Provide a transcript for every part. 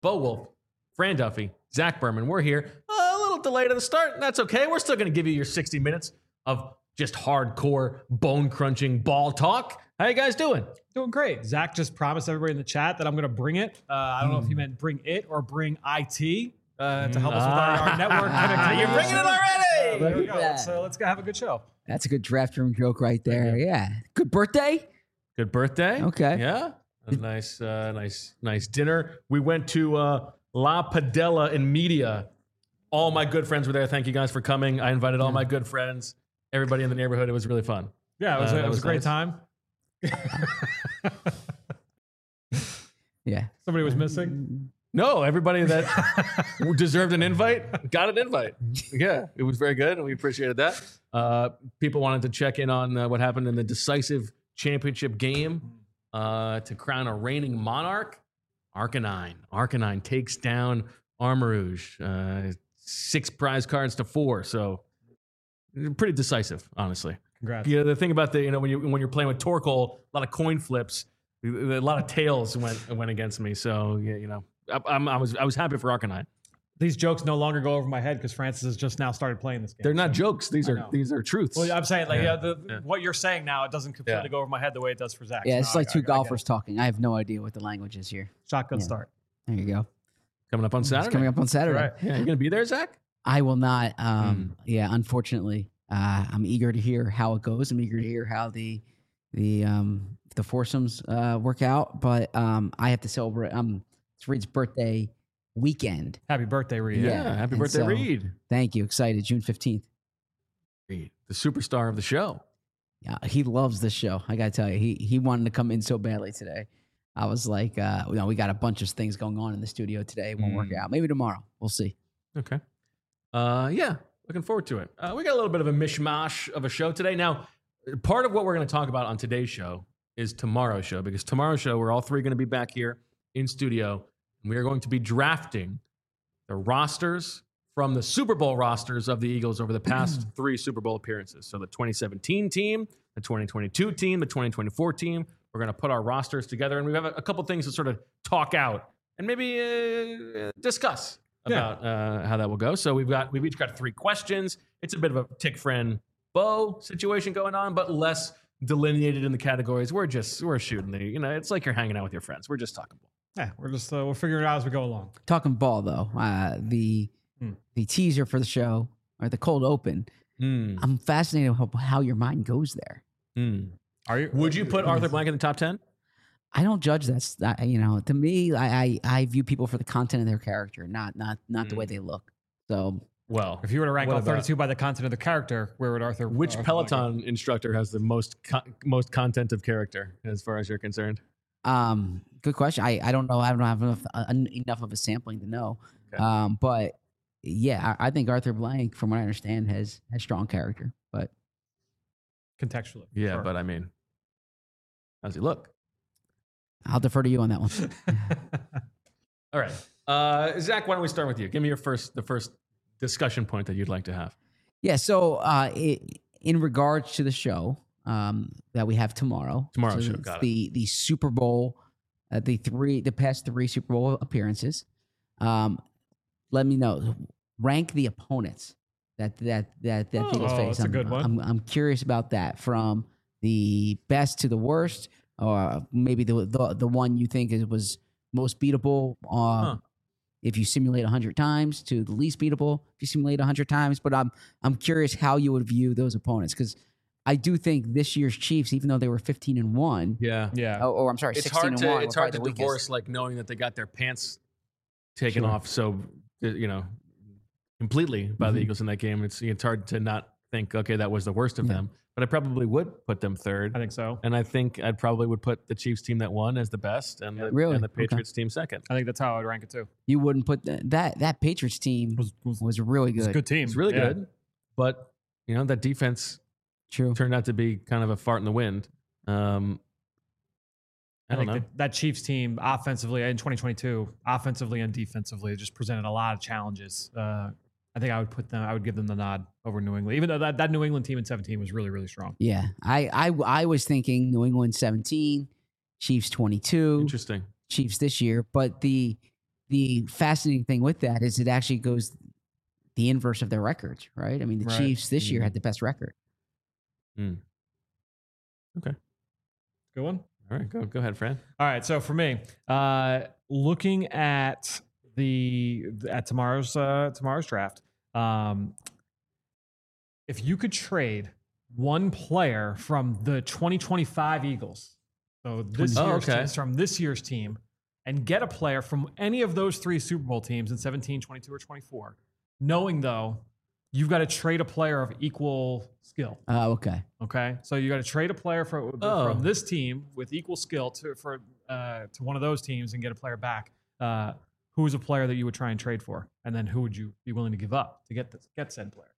Bo Wolf, Fran Duffy, Zach Berman. We're here. A little delayed at the start. That's okay. We're still going to give you your 60 minutes of just hardcore, bone-crunching ball talk. How you guys doing? Doing great. Zach just promised everybody in the chat that I'm going to bring it. I don't know if he meant bring it or bring IT to help us with our network connectivity. You're bringing it already. There we go. Let's go have a good show. That's a good draft room joke right there. Yeah. Good birthday. Good birthday. Okay. Yeah. A nice dinner. We went to La Padella in Media. All my good friends were there. Thank you guys for coming. I invited all my good friends, everybody in the neighborhood. It was really fun. Yeah, it was a great time. Yeah. Somebody was missing. No, everybody that deserved an invite got an invite. Yeah, it was very good, and we appreciated that. People wanted to check in on what happened in the decisive championship game to crown a reigning monarch. Arcanine. Arcanine takes down Armarouge. 6 prize cards to 4, so pretty decisive, honestly. Congrats. Yeah, the thing about when you're playing with Torkoal, a lot of coin flips, a lot of tails went against me. So yeah, I was happy for Arcanine. These jokes no longer go over my head because Francis has just now started playing this game. They're not jokes. These are truths. Well, I'm saying what you're saying now, it doesn't completely go over my head the way it does for Zach. Yeah, So it's like two golfers talking. I have no idea what the language is here. Shotgun start. There you go. Coming up on Saturday. It's coming up on Saturday. Right. Yeah, you gonna be there, Zach? I will not. Yeah, unfortunately, I'm eager to hear how it goes. I'm eager to hear how the foursomes work out. But I have to celebrate. It's Reed's birthday weekend. Happy birthday, Reed. Yeah. Happy and birthday, so- Reed. Thank you. Excited. June 15th. Reed, the superstar of the show. Yeah, he loves this show. I gotta tell you, he wanted to come in so badly today. I was like, we got a bunch of things going on in the studio today. It won't work out. Maybe tomorrow. We'll see. Okay. Yeah, looking forward to it. We got a little bit of a mishmash of a show today. Now, part of what we're going to talk about on today's show is tomorrow's show, because tomorrow's show, we're all three going to be back here in studio, and we are going to be drafting the rosters from the Super Bowl rosters of the Eagles over the past 3 Super Bowl appearances. So the 2017 team, the 2022 team, the 2024 team. We're going to put our rosters together, and we have a couple things to sort of talk out and maybe discuss about how that will go. So we've each got 3 questions. It's a bit of a Tick Friend Bo situation going on, but less delineated in the categories. We're shooting it's like you're hanging out with your friends. We're just talking ball. Yeah, we're just we'll figure it out as we go along. Talking ball though, the teaser for the show or the cold open. I'm fascinated how your mind goes there. Are you? Would you put Arthur Blank in the top 10? I don't judge that. To me, I view people for the content of their character, not the way they look. So, Well, If you were to rank what all about- 32 by the content of the character, where would Arthur? which Arthur Peloton instructor has the most content of character, as far as you're concerned? good question. I don't know. I don't have enough of a sampling to know. Okay. But yeah, I think Arthur Blank, from what I understand, has strong character. But contextually? Yeah, Sure. but I mean, how's he look? I'll defer to you on that one. All right, Zach, why don't we start with you? Give me the first discussion point that you'd like to have. Yeah. So, in regards to the show that we have tomorrow, Tomorrow's so show, it's got the Super Bowl, the past 3 Super Bowl appearances. Let me know. Rank the opponents that Eagles face. that's a good one. I'm curious about that, from the best to the worst, or maybe the one you think was most beatable. If you simulate 100 times, to the least beatable if you simulate 100 times. But I'm curious how you would view those opponents, because I do think this year's Chiefs, even though they were 15-1, Yeah. or I'm sorry, It's 16-1, hard to were it's probably hard to the weakest. divorce, like, knowing that they got their pants taken off so completely by the Eagles in that game. It's hard to not think, okay, that was the worst of them. But I probably would put them third. I think so. And I think I'd probably would put the Chiefs team that won as the best, and Really? and the Okay. Patriots team second. I think that's how I would rank it too. You wouldn't put that Patriots team was really It's a good. good team. It's really Yeah. good, but that defense True. turned out to be kind of a fart in the wind. I don't know. That Chiefs team offensively in 2022, offensively and defensively, just presented a lot of challenges. I think I would give them the nod over New England, even though that New England team in 17 was really, really strong. Yeah, I was thinking New England 17, Chiefs 22, Interesting. Chiefs this year, but the the fascinating thing with that is it actually goes the inverse of their records, right? I mean, the Right. Chiefs this year had the best record. Okay. Good one. All right. Go ahead, Fran. All right, so for me, looking at tomorrow's draft, if you could trade one player from the 2025 Eagles, so from this year's team, and get a player from any of those three Super Bowl teams in 17, 22, or 24, knowing though you've got to trade a player of equal skill. Okay. Okay, so you got to trade a player from this team with equal skill to one of those teams and get a player back. Who is a player that you would try and trade for, and then who would you be willing to give up to get said player?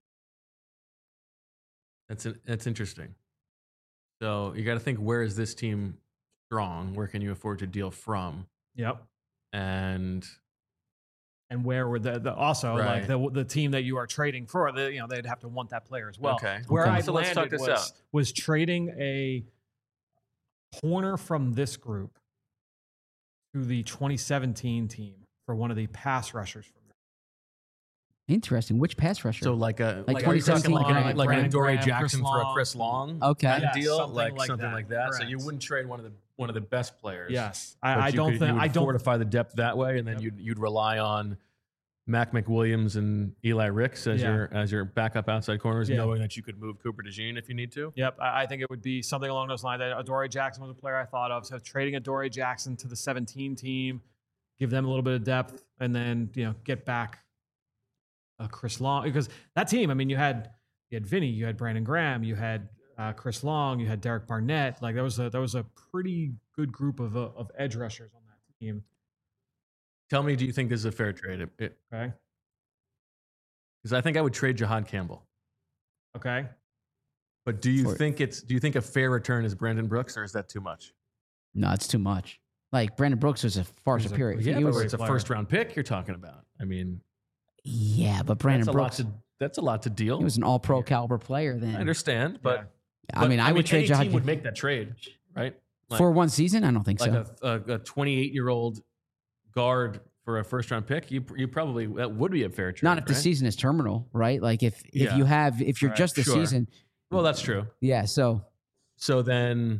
That's interesting. So you got to think, where is this team strong? Where can you afford to deal from? Yep. And where would also Right. like the team that you are trading for? They'd have to want that player as well. Okay. Where Okay. I So let's talk landed this out. was trading a corner from this group to the 2017 team for one of the pass rushers from there. Interesting. Which pass rusher? so like are you talking 2017 like Graham- an Brandon Adoree Graham, Jackson Chris for a Long. Chris Long Okay. kind of Yes, deal, something something like like that. So Correct. you wouldn't trade one of the best players. Yes, But I you don't could- think you would I don't. fortify the depth that way, and then you'd rely on Mac McWilliams and Eli Ricks as your backup outside corners, Yeah. knowing that you could move Cooper DeJean if you need to. Yep, I think it would be something along those lines. Adoree Jackson was a player I thought of. So trading Adoree Jackson to the 17 team, give them a little bit of depth, and then get back Chris Long, because that team. I mean, you had Vinny, you had Brandon Graham, you had Chris Long, you had Derek Barnett. Like that was a pretty good group of edge rushers on that team. Tell me, do you think this is a fair trade? Okay, Because I think I would trade Jahad Campbell. okay. But do you think a fair return is Brandon Brooks, or is that too much? No, it's too much. Like Brandon Brooks was a far superior. Yeah, He but was- it's a player. first round pick you're talking about. I mean, but Brandon Brooks, that's a lot to deal. he was an all-pro caliber player I then. understand, but I mean, I would trade any Jahad team would make that trade, right? Like, for one season. I don't think like so. a 28-year-old guard for a first round pick, you probably, that would be a fair trade. Not if the right? season is terminal, right? Like if Yeah. if you're Right, just the sure. season, Well, that's true. yeah. So So then,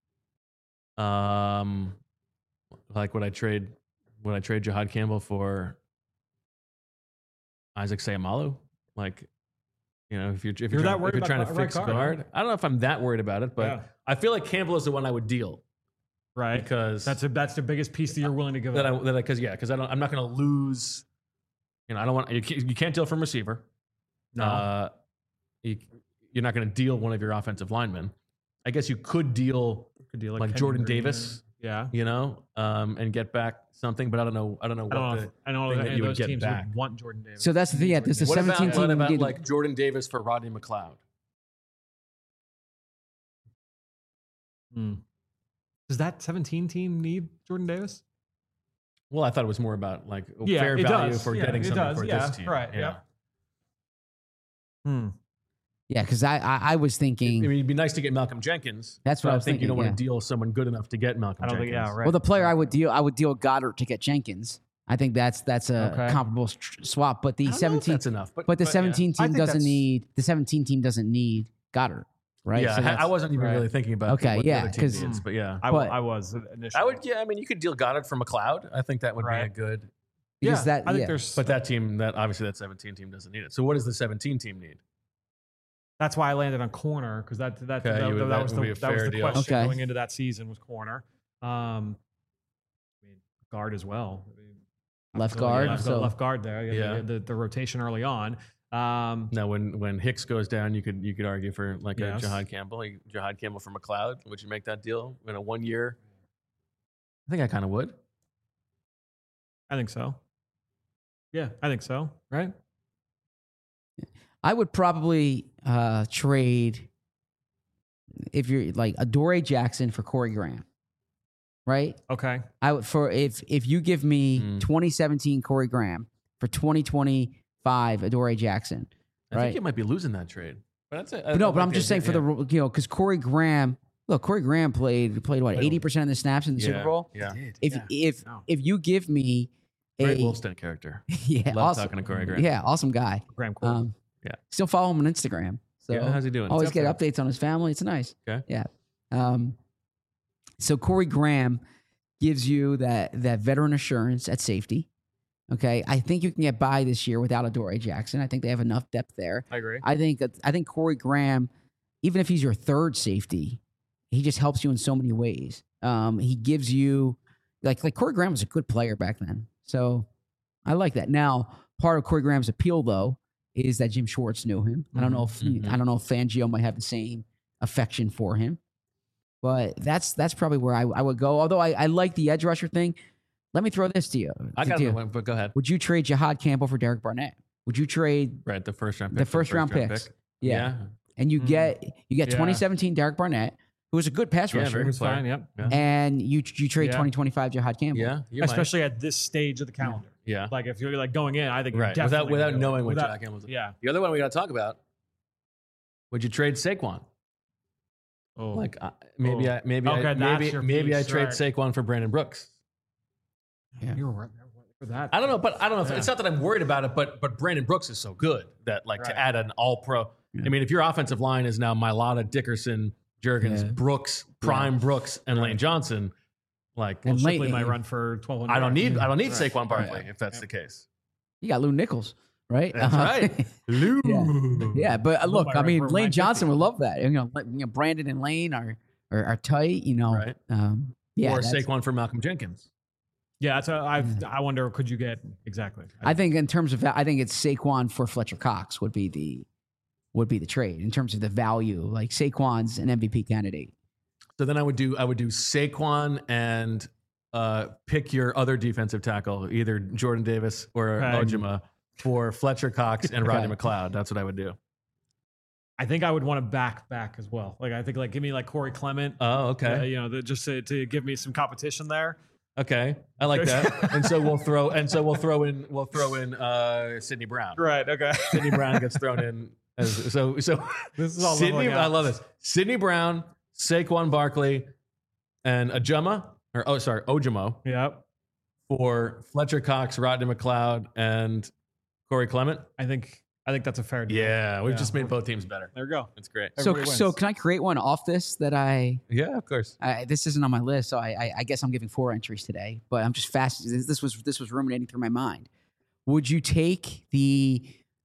like would I trade Jahad Campbell for Isaac Seumalo? Like, if you're that worried about trying to right fix guard, guard, right? I don't know if I'm that worried about it, but Yeah. I feel like Campbell is the one I would deal Right, because that's the biggest piece that you're willing to give that up. because I'm not going to lose. I don't want you can't deal from receiver. No. You're not going to deal one of your offensive linemen. I guess you could deal Could deal like Kenyon Jordan Green. Davis, Yeah. and get back something, but I don't know. I don't know if thing that any you of would those get teams back. would want Jordan Davis. so that's the thing. Yeah, there's the What 17 about, team. what about did- like Jordan Davis for Rodney McLeod? Does that 17 team need Jordan Davis? Well, I thought it was more about like Yeah, fair it value does. for Yeah, getting it something does. for Yeah, this team. right, yeah. Yeah, because I was I thinking. mean, it'd be nice to get Malcolm Jenkins. That's but what I I was think you don't thinking, want to deal someone good enough to get Malcolm I don't Jenkins. think. Yeah, right. Well, the player I would deal Goddard to get Jenkins. I think that's a Okay. comparable swap. But I the don't know if 17, that's enough. but the yeah. 17 I team think doesn't that's- need the 17 team doesn't need Goddard, right? Yeah, So I that's- wasn't even right. really thinking about Okay, what yeah, the other team 'cause- needs, but yeah. But- I was initially. I would, yeah. I mean, you could deal Goddard for McLeod. I think that would be a Right. good. because that I think yeah. there's. But that team, that 17 team doesn't need it. So what does the 17 team need? That's why I landed on corner because that Okay, was that would be a that was fair the deal. question Okay. going into that season was corner. I mean, guard as well. I mean, Left absolutely, guard, yeah, I've got so- left guard there. Yeah. The rotation early on. Now, when Hicks goes down, you could argue for like Yes. a Jahad Campbell. Jahad Campbell for McLeod. Would you make that deal in a 1 year? I think I kind of would. I think so. Yeah, I think so. Right. I would probably trade if you're like Adoree Jackson for Corey Graham, right? Okay. I would for if you give me Mm. 2017 Corey Graham for 2025 Adoree Jackson, I right? think you might be losing that trade. But that's it. But no, but I'm just saying for the because Corey Graham played what 80% of the snaps in the Super Bowl. Yeah. If No. if you give me Great Wolfstein character. Yeah, Love awesome. talking to Corey Graham. Yeah, awesome guy. Graham Cole. Yeah. Still follow him on Instagram. So Yeah, how's he doing? always It's get up updates on his family. It's nice. Okay. Yeah. So Corey Graham gives you that veteran assurance at safety. Okay. I think you can get by this year without Adoree Jackson. I think they have enough depth there. I agree. I think Corey Graham, even if he's your third safety, he just helps you in so many ways. He gives you like Corey Graham was a good player back then. So I like that. Now, part of Corey Graham's appeal though is that Jim Schwartz knew him. I don't know if Fangio might have the same affection for him. But that's probably where I would go. Although I like the edge rusher thing. Let me throw this to you. I got one, but go ahead. Would you trade Jahad Campbell for Derek Barnett? Would you trade the first round pick? The first round picks. Pick? Yeah. And you get 2017 Derek Barnett, who was a good pass rusher. very good player. Fine, yep. Yeah. And you trade 2025 Jahad Campbell. Yeah, you Especially at this stage of the calendar. Yeah. Like if you're like going in, I think Right. definitely Without gonna do knowing it. what Jack Campbell's. Yeah. The other one we got to talk about. Would you trade Saquon? Oh. Like Okay, that's your maybe I piece, trade right. Saquon for Brandon Brooks. Yeah. You were right for that. I don't know, but I don't know. If, Yeah. It's not that I'm worried about it, but Brandon Brooks is so good that Right. to add an All Pro. Yeah. I mean, if your offensive line is now Mailata, Dickerson, Jurgens, Yeah. Brooks, Prime Brooks, and Lane Johnson, like And Shipley Lane- might run for 1,200. I don't need Right. Saquon Barkley Right. if that's the case. You got Lou Nichols, right? That's right. Lou. Yeah, but look, might I run mean, for Lane 950. Johnson would love that. Brandon and Lane are tight. Right. Yeah, Or that's- Saquon for Malcolm Jenkins. Yeah, that's I wonder, could you get exactly? I think in terms of I think it's Saquon for Fletcher Cox would be the trade in terms of the value. Like Saquon's an MVP candidate. So then I would do Saquon and pick your other defensive tackle, either Jordan Davis or Okay. Ojima, for Fletcher Cox and Rodney Okay. McLeod. That's what I would do. I think I would want to back as well. Like I think give me like Corey Clement. Oh, okay. Just to give me some competition there. Okay, I like that. And so we'll throw in Sidney Brown. Right. Okay. Sidney Brown gets thrown in as so. This is all Sidney, leveling I out. love this. Sidney Brown, Saquon Barkley, and Ojimo Yep. for Fletcher Cox, Rodney McLeod, and Corey Clement. I think that's a fair deal. Yeah, we've Yeah. just made both teams better. There we go. It's great. Everybody So wins. can I create one off this that Yeah, of course. this isn't on my list, so I guess I'm giving 4 entries today. But I'm just fast. This was ruminating through my mind. Would you take the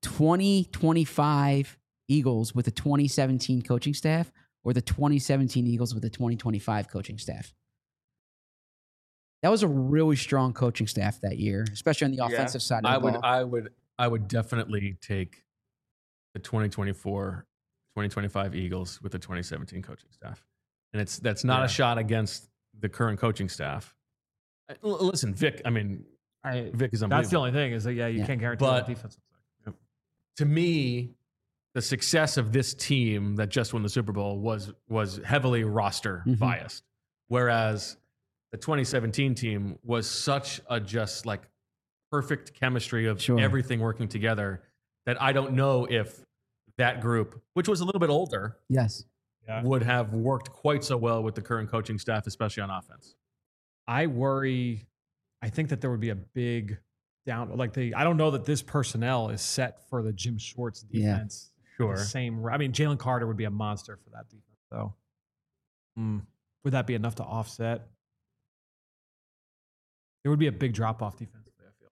2025 Eagles with the 2017 coaching staff, or the 2017 Eagles with the 2025 coaching staff? That was a really strong coaching staff that year, especially on the offensive side of the ball. I would definitely take the 2024-2025 Eagles with the 2017 coaching staff. And that's not a shot against the current coaching staff. Listen, Vic, I mean, Vic is unbelievable. That's the only thing is that you can't guarantee But- the defense. Yep. To me, the success of this team that just won the Super Bowl was heavily roster biased. Whereas the 2017 team was such a just like perfect chemistry of Sure. everything working together that I don't know if that group, which was a little bit older, Yes. Yeah. would have worked quite so well with the current coaching staff, especially on offense. I worry. I think that there would be a big down. I don't know that this personnel is set for the Jim Schwartz Yeah. defense. Sure. The same. I mean, Jalen Carter would be a monster for that defense, though. Would that be enough to offset? There would be a big drop off defensively, I feel.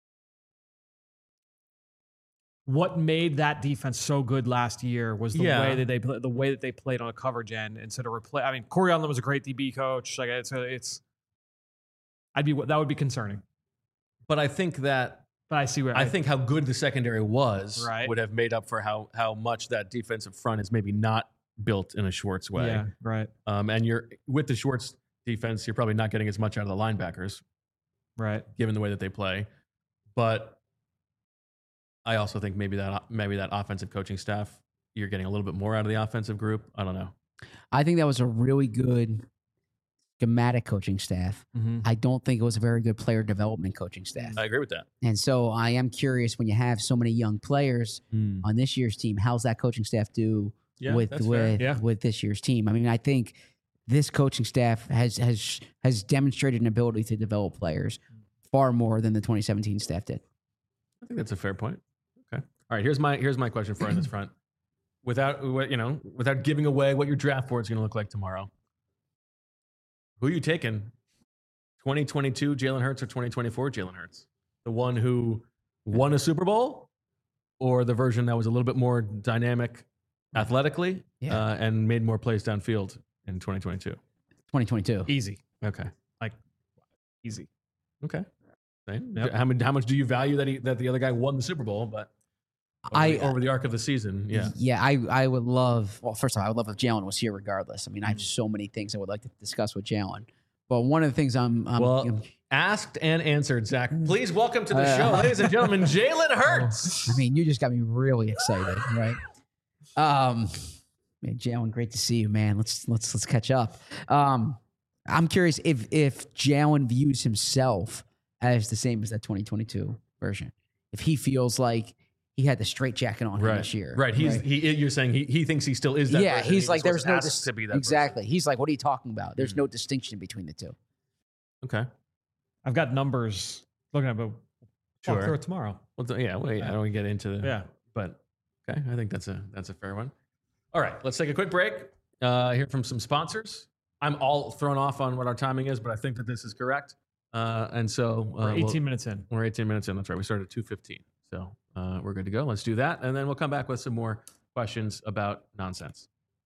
What made that defense so good last year was the Yeah. way that they played on a coverage end instead of replay. I mean, Corey Allen was a great DB coach. Like that would be concerning. But I think that But I see where I think how good the secondary was Right. would have made up for how much that defensive front is maybe not built in a Schwartz way. Yeah, right, And you're with the Schwartz defense, you're probably not getting as much out of the linebackers, right. given the way that they play. But I also think maybe that offensive coaching staff, you're getting a little bit more out of the offensive group. I don't know. I think that was a really good schematic coaching staff. Mm-hmm. I don't think it was a very good player development coaching staff. I agree with that. And so I am curious, when you have so many young players on this year's team, how's that coaching staff do Yeah, with that's fair. Yeah. with this year's team? I mean, I think this coaching staff has demonstrated an ability to develop players. far more than the 2017 staff did. I think that's a fair point. Okay. All right. Here's my question for you on this front. Without giving away what your draft board is going to look like tomorrow, who are you taking? 2022 Jalen Hurts or 2024 Jalen Hurts? The one who won a Super Bowl, or the version that was a little bit more dynamic athletically and made more plays downfield in 2022? 2022. Easy. Okay. Easy. Okay. Yep. How much do you value that the other guy won the Super Bowl, but over the arc of the season? Yeah. I would love. Well, first of all, I would love if Jalen was here regardless. I mean, I have so many things I would like to discuss with Jalen. But one of the things I'm asked and answered, Zach. Please welcome to the show, ladies and gentlemen, Jalen Hurts. I mean, you just got me really excited, right? Man, Jalen, great to see you, man. Let's catch up. I'm curious if Jalen views himself as the same as that 2022 version. If he feels like he had the straight jacket on him this year. Right. You're saying he thinks he still is that version. He's like, there's no to be that exactly. person. He's like, what are you talking about? There's no distinction between the two. Okay. I've got numbers looking at, but walk through it tomorrow. Well, I don't want to get into the. Yeah. But okay, I think that's a fair one. All right, let's take a quick break. Hear from some sponsors. I'm all thrown off on what our timing is, but I think that this is correct. And so we're 18 minutes in. We're 18 minutes in. That's right. We started at 2:15, so we're good to go. Let's do that, and then we'll come back with some more questions about nonsense.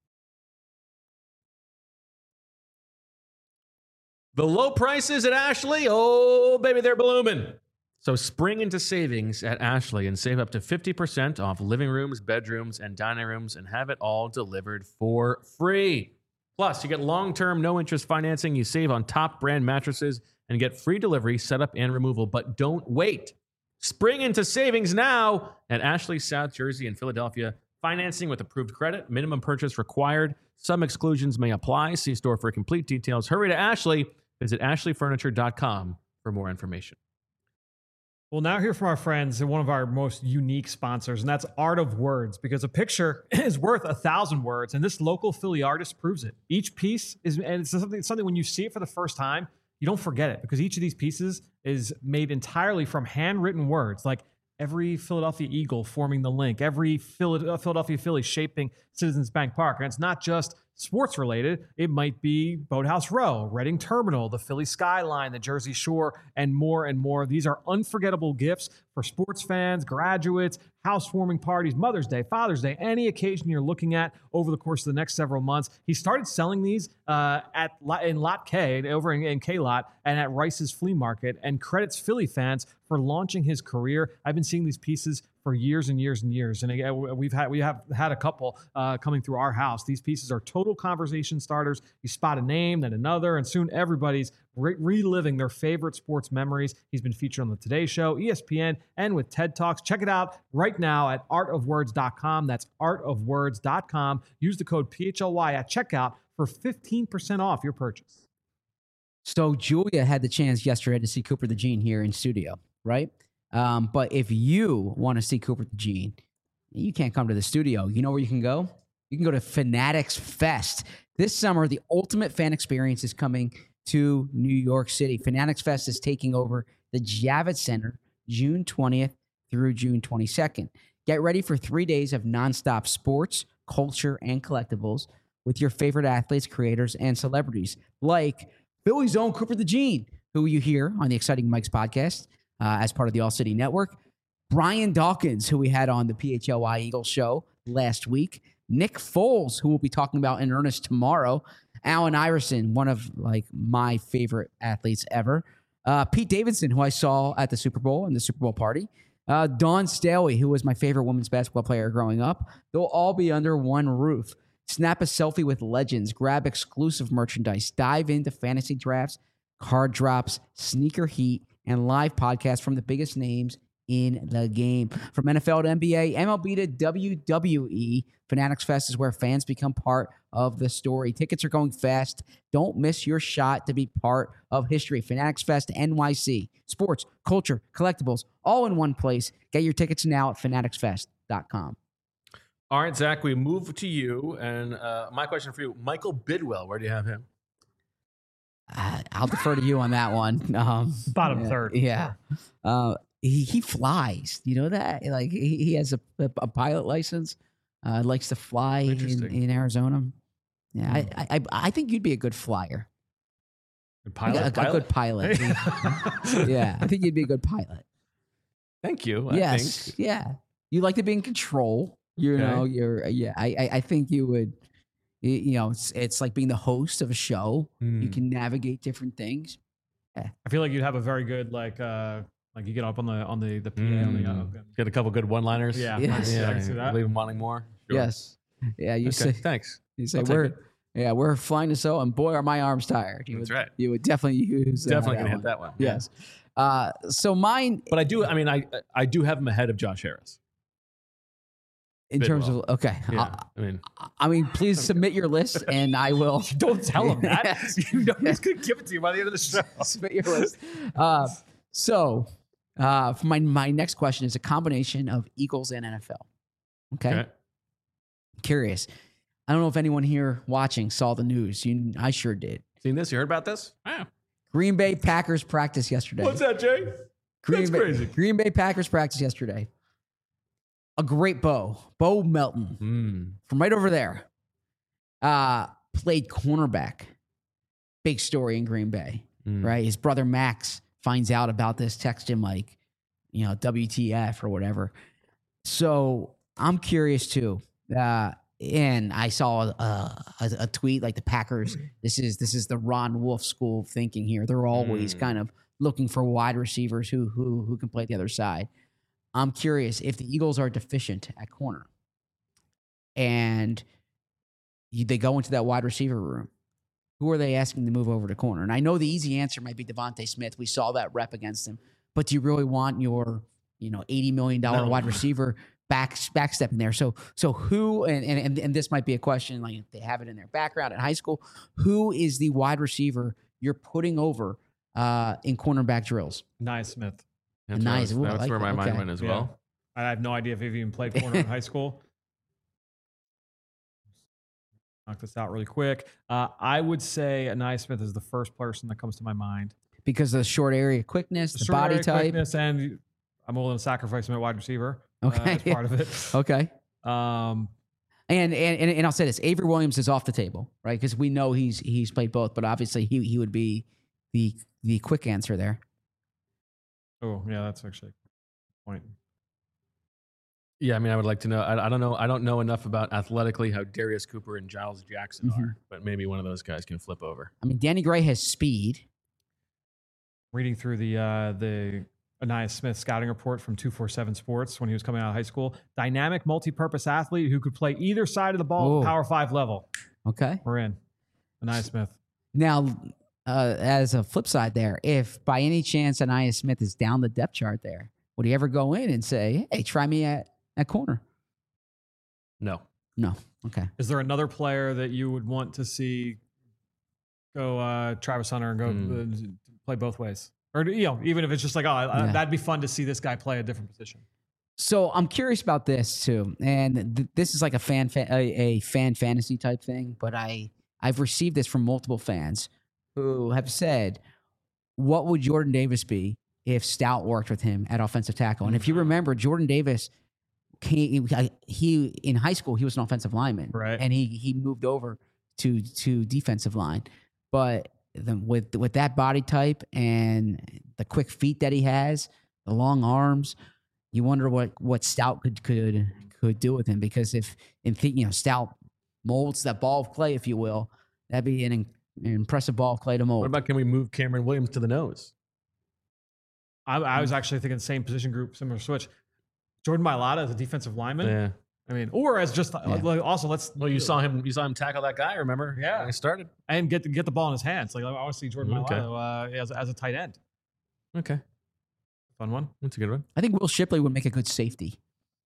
The low prices at Ashley, oh baby, they're blooming. So spring into savings at Ashley and save up to 50% off living rooms, bedrooms, and dining rooms, and have it all delivered for free. Plus, you get long-term, no-interest financing. You save on top brand mattresses and get free delivery, setup, and removal. But don't wait. Spring into savings now at Ashley, South Jersey, and Philadelphia. Financing with approved credit. Minimum purchase required. Some exclusions may apply. See store for complete details. Hurry to Ashley. Visit ashleyfurniture.com for more information. We'll now hear from our friends and one of our most unique sponsors, and that's Art of Words, because a picture is worth 1,000 words, and this local Philly artist proves it. Each piece is, and it's something when you see it for the first time, you don't forget it, because each of these pieces is made entirely from handwritten words, like every Philadelphia Eagle forming the link, every Philadelphia Philly shaping Citizens Bank Park, and it's not just sports related. It might be Boathouse Row, Reading Terminal, the Philly skyline, the Jersey Shore, and more and more. These are unforgettable gifts for sports fans, graduates, housewarming parties, Mother's Day, Father's Day, any occasion you're looking at over the course of the next several months. He started selling these in Lot K, over in K-Lot, and at Rice's Flea Market, and credits Philly fans for launching his career. I've been seeing these pieces for years and years and years, and again, we have had a couple coming through our house. These pieces are total conversation starters. You spot a name, then another, and soon everybody's reliving their favorite sports memories. He's been featured on the Today Show, ESPN, and with TED Talks. Check it out right now at artofwords.com. That's artofwords.com. Use the code PHLY at checkout for 15% off your purchase. So Julia had the chance yesterday to see Cooper the Gene here in studio, right? But if you want to see Cooper the Gene, you can't come to the studio. You know where you can go? You can go to Fanatics Fest. This summer, the ultimate fan experience is coming to New York City. Fanatics Fest is taking over the Javits Center June 20th through June 22nd. Get ready for 3 days of nonstop sports, culture, and collectibles with your favorite athletes, creators, and celebrities like Philly's own Cooper the Gene, who you hear on the Exciting Mike's podcast as part of the All City Network. Brian Dawkins, who we had on the PHLY Eagles show last week. Nick Foles, who we'll be talking about in earnest tomorrow. Allen Iverson, one of my favorite athletes ever. Pete Davidson, who I saw at the Super Bowl and the Super Bowl party. Dawn Staley, who was my favorite women's basketball player growing up. They'll all be under one roof. Snap a selfie with legends. Grab exclusive merchandise. Dive into fantasy drafts, card drops, sneaker heat, and live podcasts from the biggest names in the game. From NFL to NBA, MLB to WWE, Fanatics Fest is where fans become part of the story. Tickets are going fast. Don't miss your shot to be part of history. Fanatics Fest NYC. Sports, culture, collectibles, all in one place. Get your tickets now at fanaticsfest.com. All right, Zach, we move to you. And my question for you, Michael Bidwell, where do you have him? I'll defer to you on that one. Bottom third. Yeah. He flies. You know that? Like he has a pilot license. Likes to fly in Arizona. Yeah, I think you'd be a good flyer. A pilot? A good pilot. Yeah, I think you'd be a good pilot. Thank you. Yes. I think. Yeah. You like to be in control. You know, I think you would, you know, it's like being the host of a show. You can navigate different things. I feel like you'd have a very good, like you get up on the PA on the, Get a couple good one-liners. yeah. Yes. I can see that. Leave them wanting more. Sure. Yes. Yeah. You Okay, say, thanks. you say I'll take we're flying to so, and boy, are my arms tired. That's right. You would definitely use Definitely that gonna hit one. that one. Yes. So mine, But I do. I mean, I do have him ahead of Josh Harris. in Bidwell. terms of, okay. Yeah. I mean, please submit your list and I will. Don't tell him that. Yes. You know he's going to give it to you by the end of the show. Submit your list. So for my next question is a combination of Eagles and NFL. Okay. Curious. I don't know if anyone here watching saw the news. I sure did. Seen this? You heard about this? Wow. Green Bay Packers practice yesterday. What's that, Jay? That's crazy. Green Bay Packers practice yesterday. A great Bo Melton from right over there, played cornerback. Big story in Green Bay, right? His brother Max finds out about this, texts him like, you know, WTF or whatever. So I'm curious too. And I saw a tweet like the Packers. This is the Ron Wolf school of thinking here. They're always kind of looking for wide receivers who can play the other side. I'm curious if the Eagles are deficient at corner and they go into that wide receiver room. Who are they asking to move over to corner? And I know the easy answer might be Devontae Smith. We saw that rep against him. But do you really want your, you know, $80 million wide receiver backstepping there? So who, and this might be a question, like if they have it in their background in high school, who is the wide receiver you're putting over in cornerback drills? Nice, Smith. Nice. Ooh, That's where my mind went as well. I have no idea if he even played corner in high school. Knock this out really quick. I would say Anaya Smith is the first person that comes to my mind. Because of the short area quickness, the Short body area type. quickness, and I'm willing to sacrifice him at wide receiver. Okay. As part of it. Okay. Um, And I'll say this: Avery Williams is off the table, right? Because we know he's played both, but obviously he would be the quick answer there. oh, yeah, that's actually a point. Yeah, I mean, I would like to know. I don't know. I don't know enough about athletically how Darius Cooper and Giles Jackson are, but maybe one of those guys can flip over. I mean, Danny Gray has speed. Reading through the Anaya Smith scouting report from 247 Sports when he was coming out of high school. Dynamic, multi-purpose athlete who could play either side of the ball at Power 5 level. Okay. We're in. Anaya Smith. Now, as a flip side there, if by any chance Anaya Smith is down the depth chart there, would he ever go in and say, hey, try me at corner? No. No. Okay. Is there another player that you would want to see go Travis Hunter and go play both ways? Or, you know, even if it's just like, that'd be fun to see this guy play a different position. So I'm curious about this too, and this is like a fan fantasy type thing. But I've received this from multiple fans who have said, "What would Jordan Davis be if Stout worked with him at offensive tackle?" And if you remember, Jordan Davis, he in high school he was an offensive lineman, right? And he moved over to defensive line, but with that body type and the quick feet that he has, the long arms, you wonder what Stout could do with him. Because if Stout molds that ball of clay, if you will, that'd be an impressive ball of clay to mold. What about, can we move Cameron Williams to the nose? I was actually thinking same position group, similar switch. Jordan Mailata as a defensive lineman. Yeah. I mean, or as just also Well, you saw him tackle that guy. Remember? Yeah. When he started. and get the ball in his hands. Like I want to see Jordan Okay. Mailata as a tight end. Okay. Fun one. That's a good one. I think Will Shipley would make a good safety.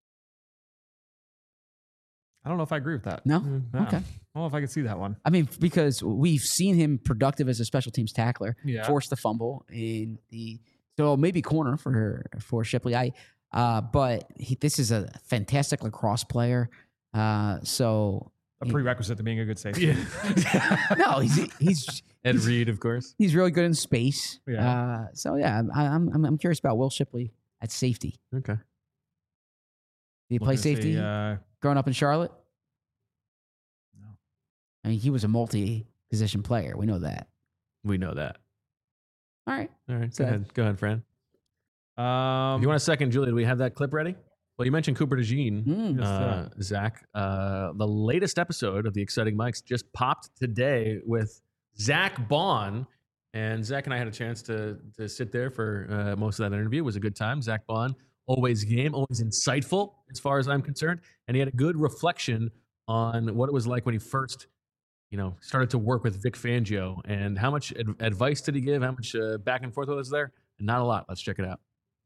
I don't know if I agree with that. No? Yeah. Okay. I don't know if I could see that one. I mean, because we've seen him productive as a special teams tackler, Yeah. forced the fumble so maybe corner for Shipley. But this is a fantastic lacrosse player. So a prerequisite to being a good safety. Yeah. No, he's Ed Reed, of course. he's really good in space. Yeah. So yeah, I'm curious about Will Shipley at safety. Okay. Did he play Looking to see, safety growing up in Charlotte? No. I mean, he was a multi-position player. We know that. We know that. All right. All right. So- Go ahead, Fran. If you want a second, Julia, do we have that clip ready? Well, you mentioned Cooper DeJean, Mm. Zach. The latest episode of the Exciting Mics just popped today with Zach Bond. And Zach and I had a chance to sit there for most of that interview. It was a good time. Zach Bond, always game, always insightful as far as I'm concerned. And he had a good reflection on what it was like when he first, started to work with Vic Fangio. And how much advice did he give? How much back and forth was there? Not a lot. Let's check it out.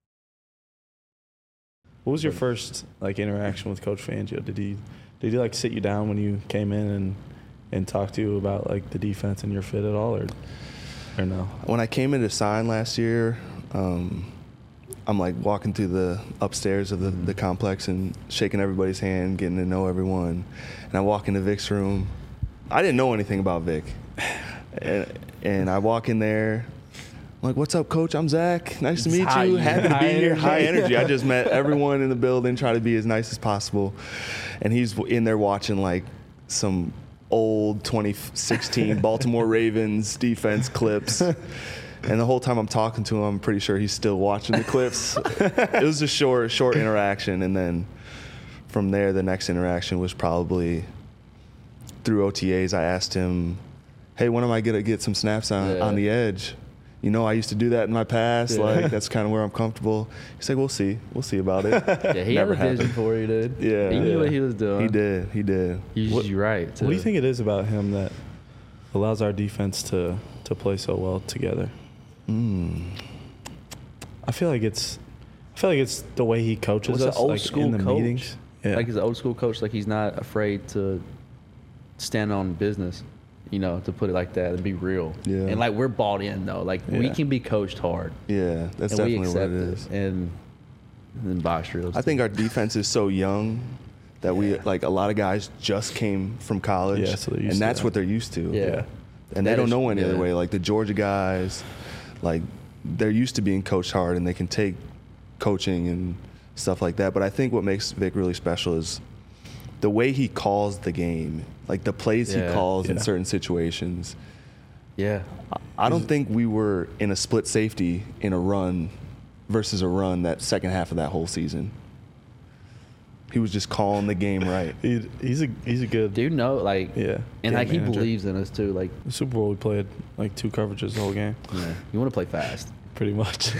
What was your first interaction with Coach Fangio? Did he sit you down when you came in and talk to you about the defense and your fit at all, or no? When I came in to sign last year, I'm walking through the upstairs of the complex and shaking everybody's hand, getting to know everyone. And I walk into Vic's room. I didn't know anything about Vic, and I walk in there. I'm like, what's up, Coach? I'm Zach. Nice to meet you. Happy to be here. High energy. I just met everyone in the building, try to be as nice as possible. And he's in there watching some old 2016 Baltimore Ravens defense clips. And the whole time I'm talking to him, I'm pretty sure he's still watching the clips. It was a short interaction. And then from there, the next interaction was probably through OTAs. I asked him, hey, when am I going to get some snaps on the edge? I used to do that in my past. That's kind of where I'm comfortable. He's like, we'll see about it. Yeah, he Never had a vision happened. for you, dude. Yeah. He knew what he was doing. He did. He's right. What do you think it is about him that allows our defense to play so well together? I feel like it's the way he coaches What's us, an old school in the coach? meetings. Yeah. He's an old school coach. He's not afraid to stand on business, to put it like that and be real. Yeah. And we're bought in though. We Yeah. can be coached hard. Yeah, that's And we definitely what accept it is. And then box drills. I think our defense is so young that we a lot of guys just came from college, Yeah, so they're used and to that's that. what they're used to. Yeah. And they That don't is- know any other yeah. way. The Georgia guys, they're used to being coached hard, and they can take coaching and stuff like that. But I think what makes Vic really special is the way he calls the game, the plays he Yeah. calls in Yeah. certain situations. Yeah. I don't think we were in a split safety in a run versus a run that second half of that whole season. He was just calling the game right. He's a good Dude, no, yeah. and game he manager. believes in us too. The Super Bowl we played 2 coverages the whole game, You want to play fast. pretty much.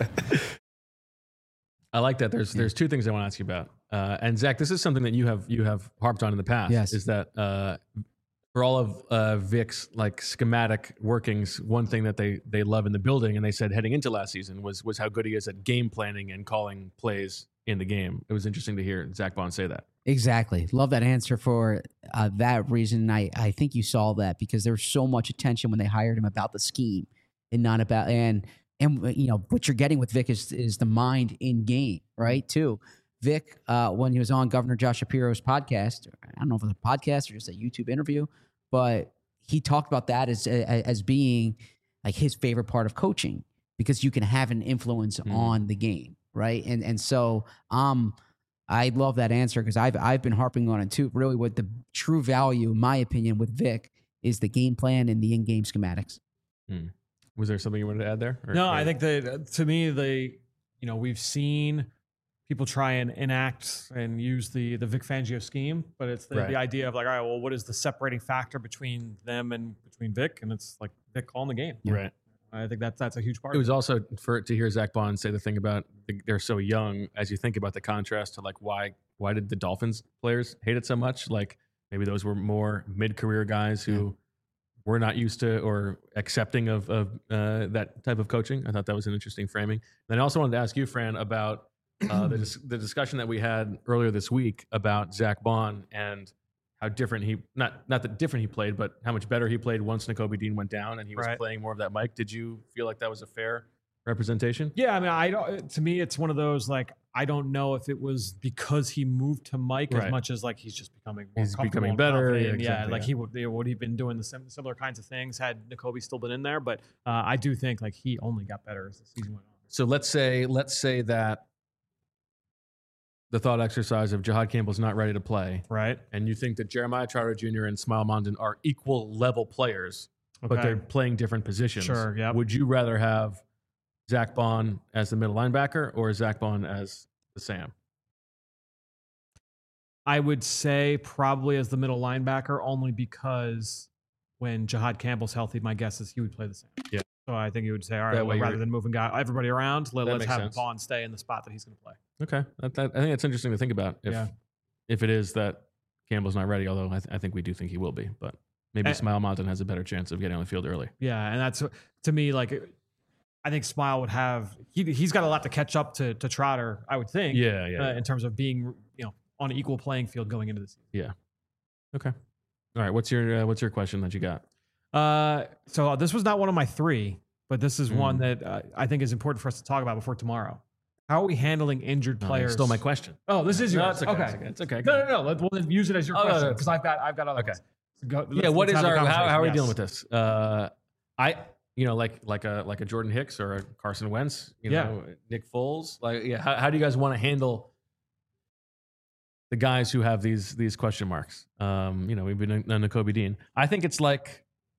I like that. There's two things I want to ask you about. And Zach, this is something that you have harped on in the past. Yes. Is that for all of Vic's schematic workings, one thing that they love in the building, and they said heading into last season was how good he is at game planning and calling plays in the game. It was interesting to hear Zach Bond say that. Exactly. Love that answer for that reason. I think you saw that because there was so much attention when they hired him about the scheme and not about and what you're getting with Vic is the mind in game, right? Too. Vic, when he was on Governor Josh Shapiro's podcast, I don't know if it was a podcast or just a YouTube interview, but he talked about that as being his favorite part of coaching because you can have an influence on the game, right? And so I love that answer because I've been harping on it too. Really, what the true value, in my opinion, with Vic is the game plan and the in-game schematics. Was there something you wanted to add there? No, I think that to me, we've seen people try and enact and use the Vic Fangio scheme, but it's the idea of all right, well, what is the separating factor between them and between Vic? And it's Vic calling the game. Right. I think that's a huge part. It was of also to hear Zach Bond say the thing about they're so young. As you think about the contrast to why did the Dolphins players hate it so much? Maybe those were more mid-career guys who were not used to or accepting of that type of coaching. I thought that was an interesting framing. And I also wanted to ask you, Fran, about the discussion that we had earlier this week about Zach Bond and how different he not that different he played, but how much better he played once Nakobe Dean went down and he was playing more of that Mike. Did you feel like that was a fair representation? Yeah, I mean, I don't. To me, it's one of those I don't know if it was because he moved to Mike as Right. much as like he's just becoming more He's comfortable becoming and better, confident. yeah, exactly, like yeah. he would have been doing the similar kinds of things had Nakobe still been in there. But I do think like he only got better as the season went on. So let's say that the thought exercise of Jahad Campbell's not ready to play, Right. and you think that Jeremiah Trotter Jr. and Smile Mondon are equal level players, but Okay. they're playing different positions. Sure, yep. Would you rather have Zach Bond as the middle linebacker or Zach Bond as the Sam? I would say probably as the middle linebacker, only because when Jahad Campbell's healthy, my guess is he would play the same. Yeah. So I think he would say, all That right, way well, rather you're- than moving everybody around, let's makes have sense. Bond stay in the spot that he's going to play. Okay, I think that's interesting to think about. Yeah. If it is that Campbell's not ready, although I think we do think he will be, but maybe Smile Mondon has a better chance of getting on the field early. Yeah, and that's to me like I think Smile would have he's got a lot to catch up to Trotter, I would think. Yeah. In terms of being on an equal playing field going into the season. Okay. All right. What's your question that you got? So this was not one of my three, but this is one Mm. that I think is important for us to talk about before tomorrow. How are we handling injured No, you players? stole my question. Oh, this is No, yours. it's okay. Okay. It's okay. No. We'll then use it as your Oh, no, question no, because I've got other Okay. ones. So go, Yeah. What let's is have the our? How are we conversation. dealing Yes. with this? Like a Jordan Hicks or a Carson Wentz. Yeah. Nick Foles. How do you guys want to handle the guys who have these question marks? We've been on Nakobe Dean. I think it's like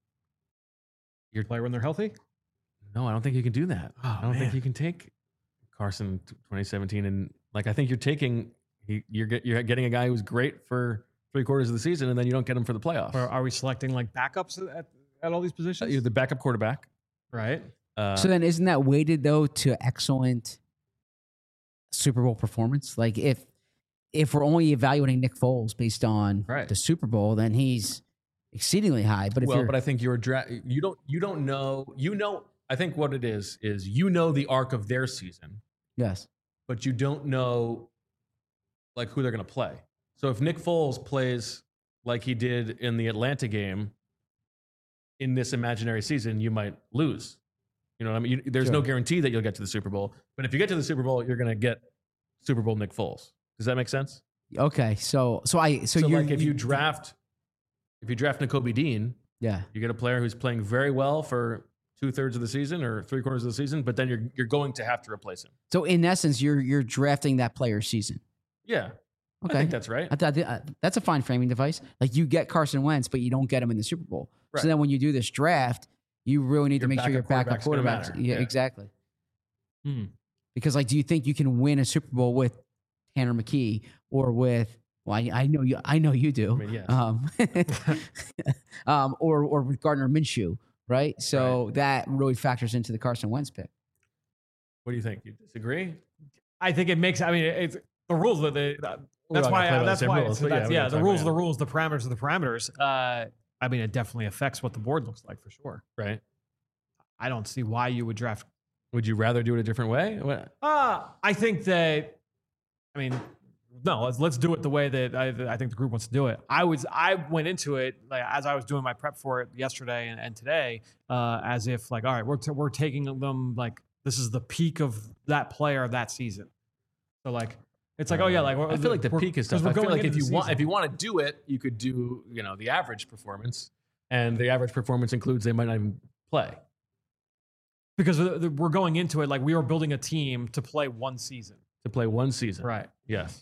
Play when they're healthy. no, I don't think you can do that. Oh, I don't think man. you can take Carson 2017 and I think you're taking you're getting a guy who's great for 3/4 of the season and then you don't get him for the playoffs. Or are we selecting like backups at all these positions? You're the backup quarterback. Right. So then, isn't that weighted though to excellent Super Bowl performance? Like if we're only evaluating Nick Foles based on Right. the Super Bowl, then he's exceedingly high. But if Well, you're but I think you don't know. I think what it is the arc of their season, yes, but you don't know like who they're going to play. So if Nick Foles plays like he did in the Atlanta game in this imaginary season, you might lose. You know what I mean? There's no Sure. guarantee that you'll get to the Super Bowl, but if you get to the Super Bowl, you're going to get Super Bowl Nick Foles. Does that make sense? okay. So you're like if you draft Nakobe Dean, yeah. you get a player who's playing very well for 2/3 of the season or 3/4 of the season, but then you're going to have to replace him. So in essence, you're drafting that player's season. Yeah, Okay. I think that's right. That's a fine framing device. Like you get Carson Wentz, but you don't get him in the Super Bowl. Right. So then when you do this draft, you really need Your to make sure your backup backup quarterback's quarterbacks. gonna Yeah, matter. Yeah. exactly. Hmm. Because like, do you think you can win a Super Bowl with Tanner McKee or with? Well, I know you do. I mean, yes. Or with Gardner Minshew, right? So that really factors into the Carson Wentz pick. What do you think? You disagree? I think it makes. I mean, it's the rules that We're that's all why. gonna play by the That's same why. rules, but yeah, we're The gonna talk rules are about the rules. The parameters are the parameters. I mean, it definitely affects what the board looks like for sure. Right? I don't see why you would draft. Would you rather do it a different way? What? I think that. I mean, no. Let's do it the way that I think the group wants to do it. I went into it like as I was doing my prep for it yesterday and today, as if like, all right, we're taking them like this is the peak of that player of that season. So like, it's like, oh yeah, like I feel like the peak is stuff. I feel like if you want want to do it, you could do the average performance, and the average performance includes they might not even play. because we're going into it like we were building a team to play one season. To play one season. Right. Yes.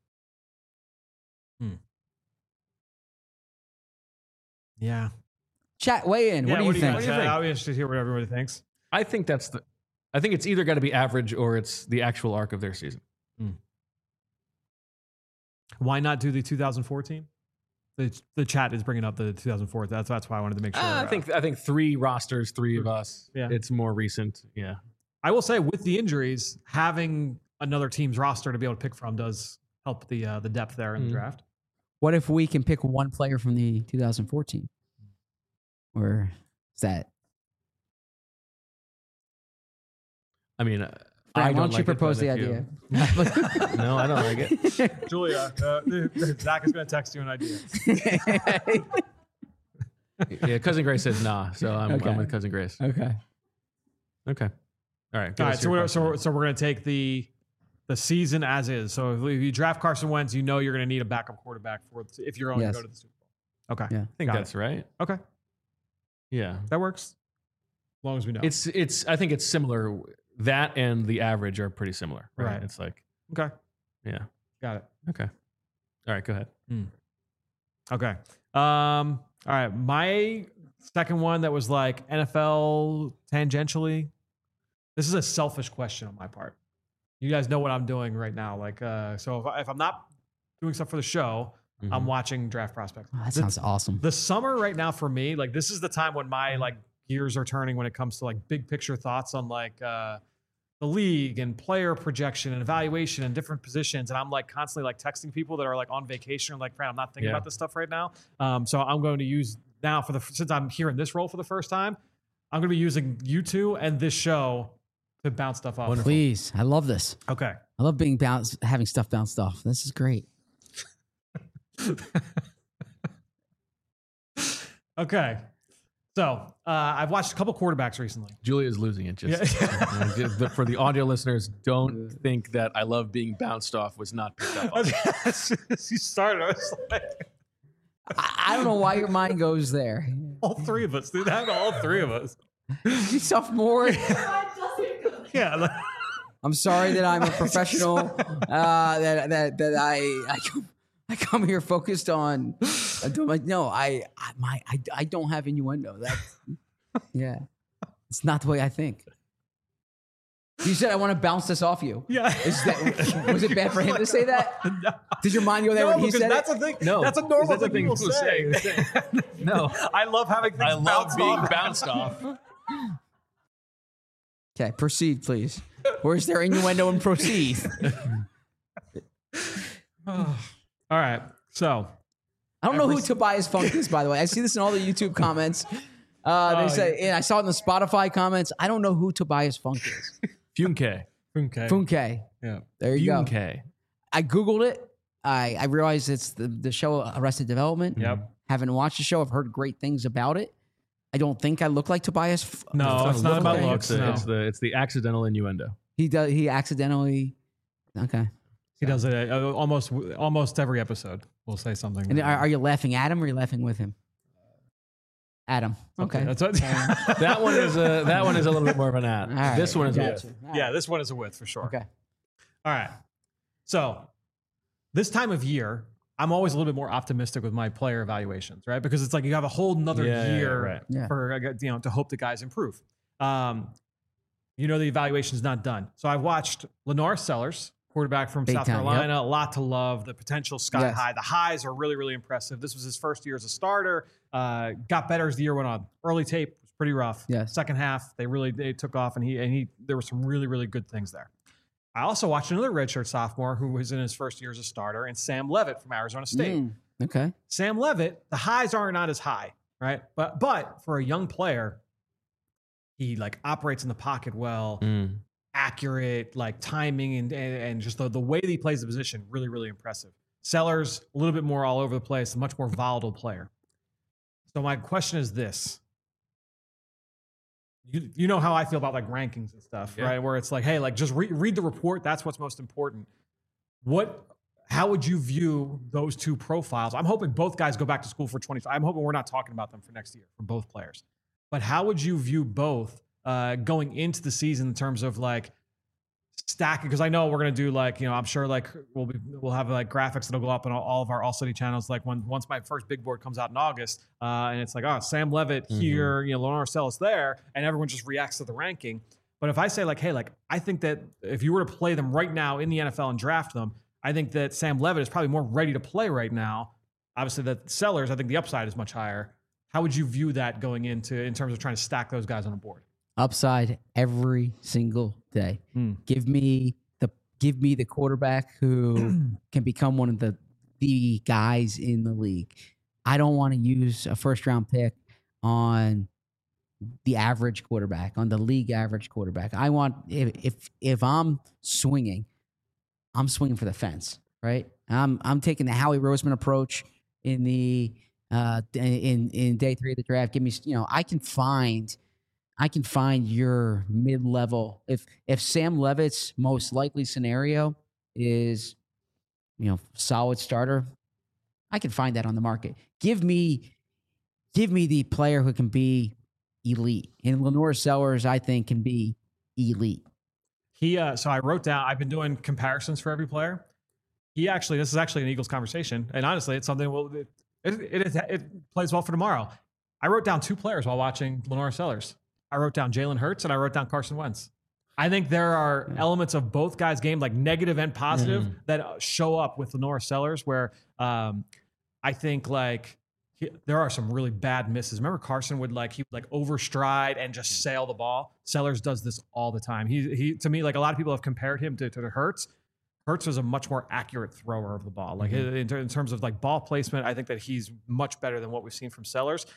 Yeah. Chat, weigh in. What do you think? I'll be interested to hear what everybody thinks. I think I think it's either got to be average or it's the actual arc of their season. Why not do the 2014? The chat is bringing up the 2004. That's why I wanted to make sure. I think 3 rosters, 3 of us. Yeah. It's more recent. Yeah. I will say with the injuries, having another team's roster to be able to pick from does help the depth there in the draft. What if we can pick one player from the 2014? Or is that? I mean, Brian, I why don't don't you like it, propose but the if you- idea? No, I don't like it. Julia, Zach is going to text you an idea. Yeah, Cousin Grace says nah, so I'm Okay. with Cousin Grace. Okay. Okay. All right. All right, so we're going to take the the season as is. So if you draft Carson Wentz, you know you're going to need a backup quarterback if you're going to Yes. go to the Super Bowl. Okay. Yeah. I think Got that's right. Okay. Yeah. That works. As long as we know. It's I think it's similar. That and the average are pretty similar, right? Right. It's like, okay. yeah. Got it. Okay. All right, go ahead. Okay. All right. My second one that was like NFL tangentially. This is a selfish question on my part. You guys know what I'm doing right now. Like, so if I'm not doing stuff for the show, I'm watching Draft Prospects. Oh, that sounds awesome. The summer right now for me, like this is the time when my like gears are turning when it comes to like big picture thoughts on like the league and player projection and evaluation and different positions. And I'm like constantly like texting people that are like on vacation. I'm like, Fran, I'm not thinking about this stuff right now. So I'm going to use now since I'm here in this role for the first time, I'm going to be using you two and this show to bounce stuff off. Please. I love this. Okay. I love having stuff bounced off. This is great. Okay. So I've watched a couple quarterbacks recently. Julia's losing it. Just for the audio listeners, don't think that I love being bounced off was not picked up on. As soon as you started, I was like, I don't know why your mind goes there. all three of us, dude. That all three of us. You sophomore. Yeah. Like, I'm sorry that I'm a professional. I come here focused on. No, I don't have innuendo. Yeah, it's not the way I think. You said I want to bounce this off you. yeah. Was it bad for him to say that? No. Did your mind go there when he because said that's it? a thing. No, that's a normal that's a thing people say. No, I love having things I love bounced being off. bounced off. Okay, proceed, please. Where's there innuendo and proceed? All right. So I don't know who Tobias Funk is, by the way. I see this in all the YouTube comments. They say, and I saw it in the Spotify comments. I don't know who Tobias Funk is. Funke. Funke. Yeah. There you go. Funke. I Googled it. I realized it's the show Arrested Development. Yep. Haven't watched the show. I've heard great things about it. I don't think I look like Tobias. No, it's not about looks. No. It's the accidental innuendo. He accidentally. Okay. He does it almost every episode. We'll say something. And are you laughing at him or are you laughing with him? Adam. Okay. That's what, That one is a little bit more of an ad. All right. This one is Gotcha. a All right. yeah, this one is a with for sure. Okay. All right. So this time of year, I'm always a little bit more optimistic with my player evaluations, right? Because it's like you have a whole nother year right. Yeah. for to hope the guys improve. The evaluation's not done. So I've watched Lenore Sellers, quarterback from Big South time, Carolina, a lot to love. The potential sky Yes. high. The highs are really, really impressive. This was his first year as a starter. Got better as the year went on. Early tape was pretty rough. Yes. Second half, they took off, and there were some really, really good things there. I also watched another redshirt sophomore who was in his first year as a starter, and Sam Levitt from Arizona State. Okay. Sam Levitt, the highs are not as high, right? But for a young player, he like operates in the pocket well, accurate, like timing and just the way that he plays the position, really, really impressive. Sellers, a little bit more all over the place, a much more volatile player. So my question is this. You know how I feel about like rankings and stuff, Yeah. right? Where it's like, hey, like just read the report. That's what's most important. How would you view those two profiles? I'm hoping both guys go back to school for 25. I'm hoping we're not talking about them for next year for both players. But how would you view both going into the season in terms of like stacking? Because I know we're gonna do like, I'm sure like we'll have like graphics that'll go up on all of our All City channels. Like once my first big board comes out in August, and it's like, oh, Sam Levitt here, Lenore Sellers there, and everyone just reacts to the ranking. But if I say like, hey, like I think that if you were to play them right now in the NFL and draft them, I think that Sam Levitt is probably more ready to play right now. Obviously, that Sellers, I think the upside is much higher. How would you view that going in terms of trying to stack those guys on a board? Upside every single day. Give me the quarterback who can become one of the guys in the league. I don't want to use a first round pick on the average quarterback, on the league average quarterback. I want if I'm swinging for the fence, right? I'm taking the Howie Roseman approach in the in day 3 of the draft. Give me, I can find I can find your mid-level. If Sam Levitt's most likely scenario is, solid starter, I can find that on the market. Give me the player who can be elite. And Lenore Sellers, I think, can be elite. So I wrote down, I've been doing comparisons for every player. This is actually an Eagles conversation. And honestly, it's something, it plays well for tomorrow. I wrote down 2 players while watching Lenore Sellers. I wrote down Jalen Hurts and I wrote down Carson Wentz. I think there are elements of both guys' game, like negative and positive, that show up with Lenore Sellers, where I think there are some really bad misses. Remember Carson would overstride and just sail the ball. Sellers does this all the time. He to me, like, a lot of people have compared him to Hurts. Hurts was a much more accurate thrower of the ball. Like in terms of like ball placement, I think that he's much better than what we've seen from Sellers.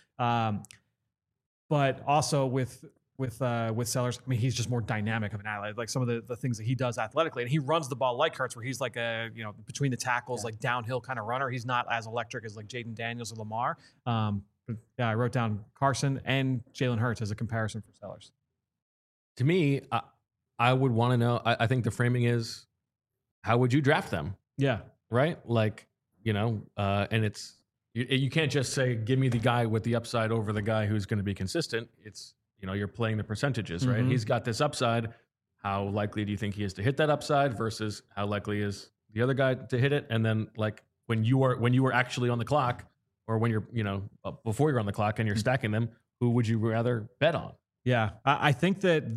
But also with Sellers, I mean, he's just more dynamic of an athlete. Like some of the things that he does athletically, and he runs the ball like Hurts, where he's like between the tackles, like downhill kind of runner. He's not as electric as like Jaden Daniels or Lamar. But I wrote down Carson and Jalen Hurts as a comparison for Sellers. To me, I would want to know. I think the framing is, how would you draft them? Yeah. Right. Like, and it's, you can't just say, give me the guy with the upside over the guy who's going to be consistent. It's, you're playing the percentages, right? He's got this upside. How likely do you think he is to hit that upside versus how likely is the other guy to hit it? And then, like, when you are actually on the clock, or when you're, before you're on the clock and you're stacking them, who would you rather bet on? Yeah. I think that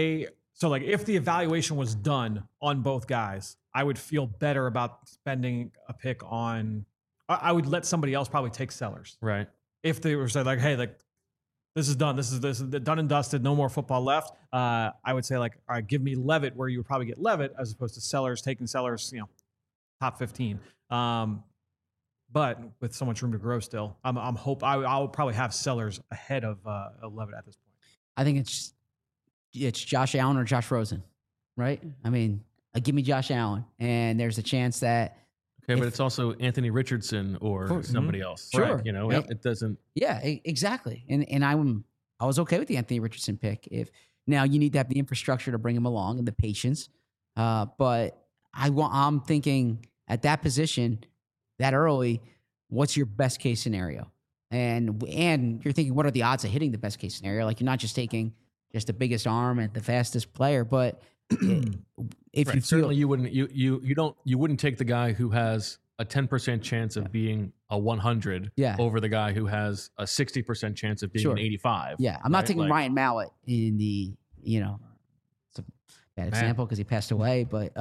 if the evaluation was done on both guys, I would feel better about spending a pick on. I would let somebody else probably take Sellers. Right. If they were saying like, hey, like, this is done. This is done and dusted. No more football left. I would say, like, all right, give me Levitt, where you would probably get Levitt as opposed to Sellers, taking Sellers, top 15. But with so much room to grow still, I'll probably have Sellers ahead of Levitt at this point. I think it's Josh Allen or Josh Rosen, right? I mean, give me Josh Allen, and there's a chance that. Okay, but it's also Anthony Richardson or somebody else. Sure. Right? It doesn't. Yeah, exactly. And I was okay with the Anthony Richardson pick. If now you need to have the infrastructure to bring him along and the patience, but I'm thinking at that position, that early, what's your best case scenario? And you're thinking, what are the odds of hitting the best case scenario? Like, you're not just taking just the biggest arm and the fastest player, but if right. you certainly you wouldn't take the guy who has a 10% chance of being a 100 over the guy who has a 60% chance of being an 85. Yeah, I'm not taking Ryan Mallett in the it's a bad example because he passed away, but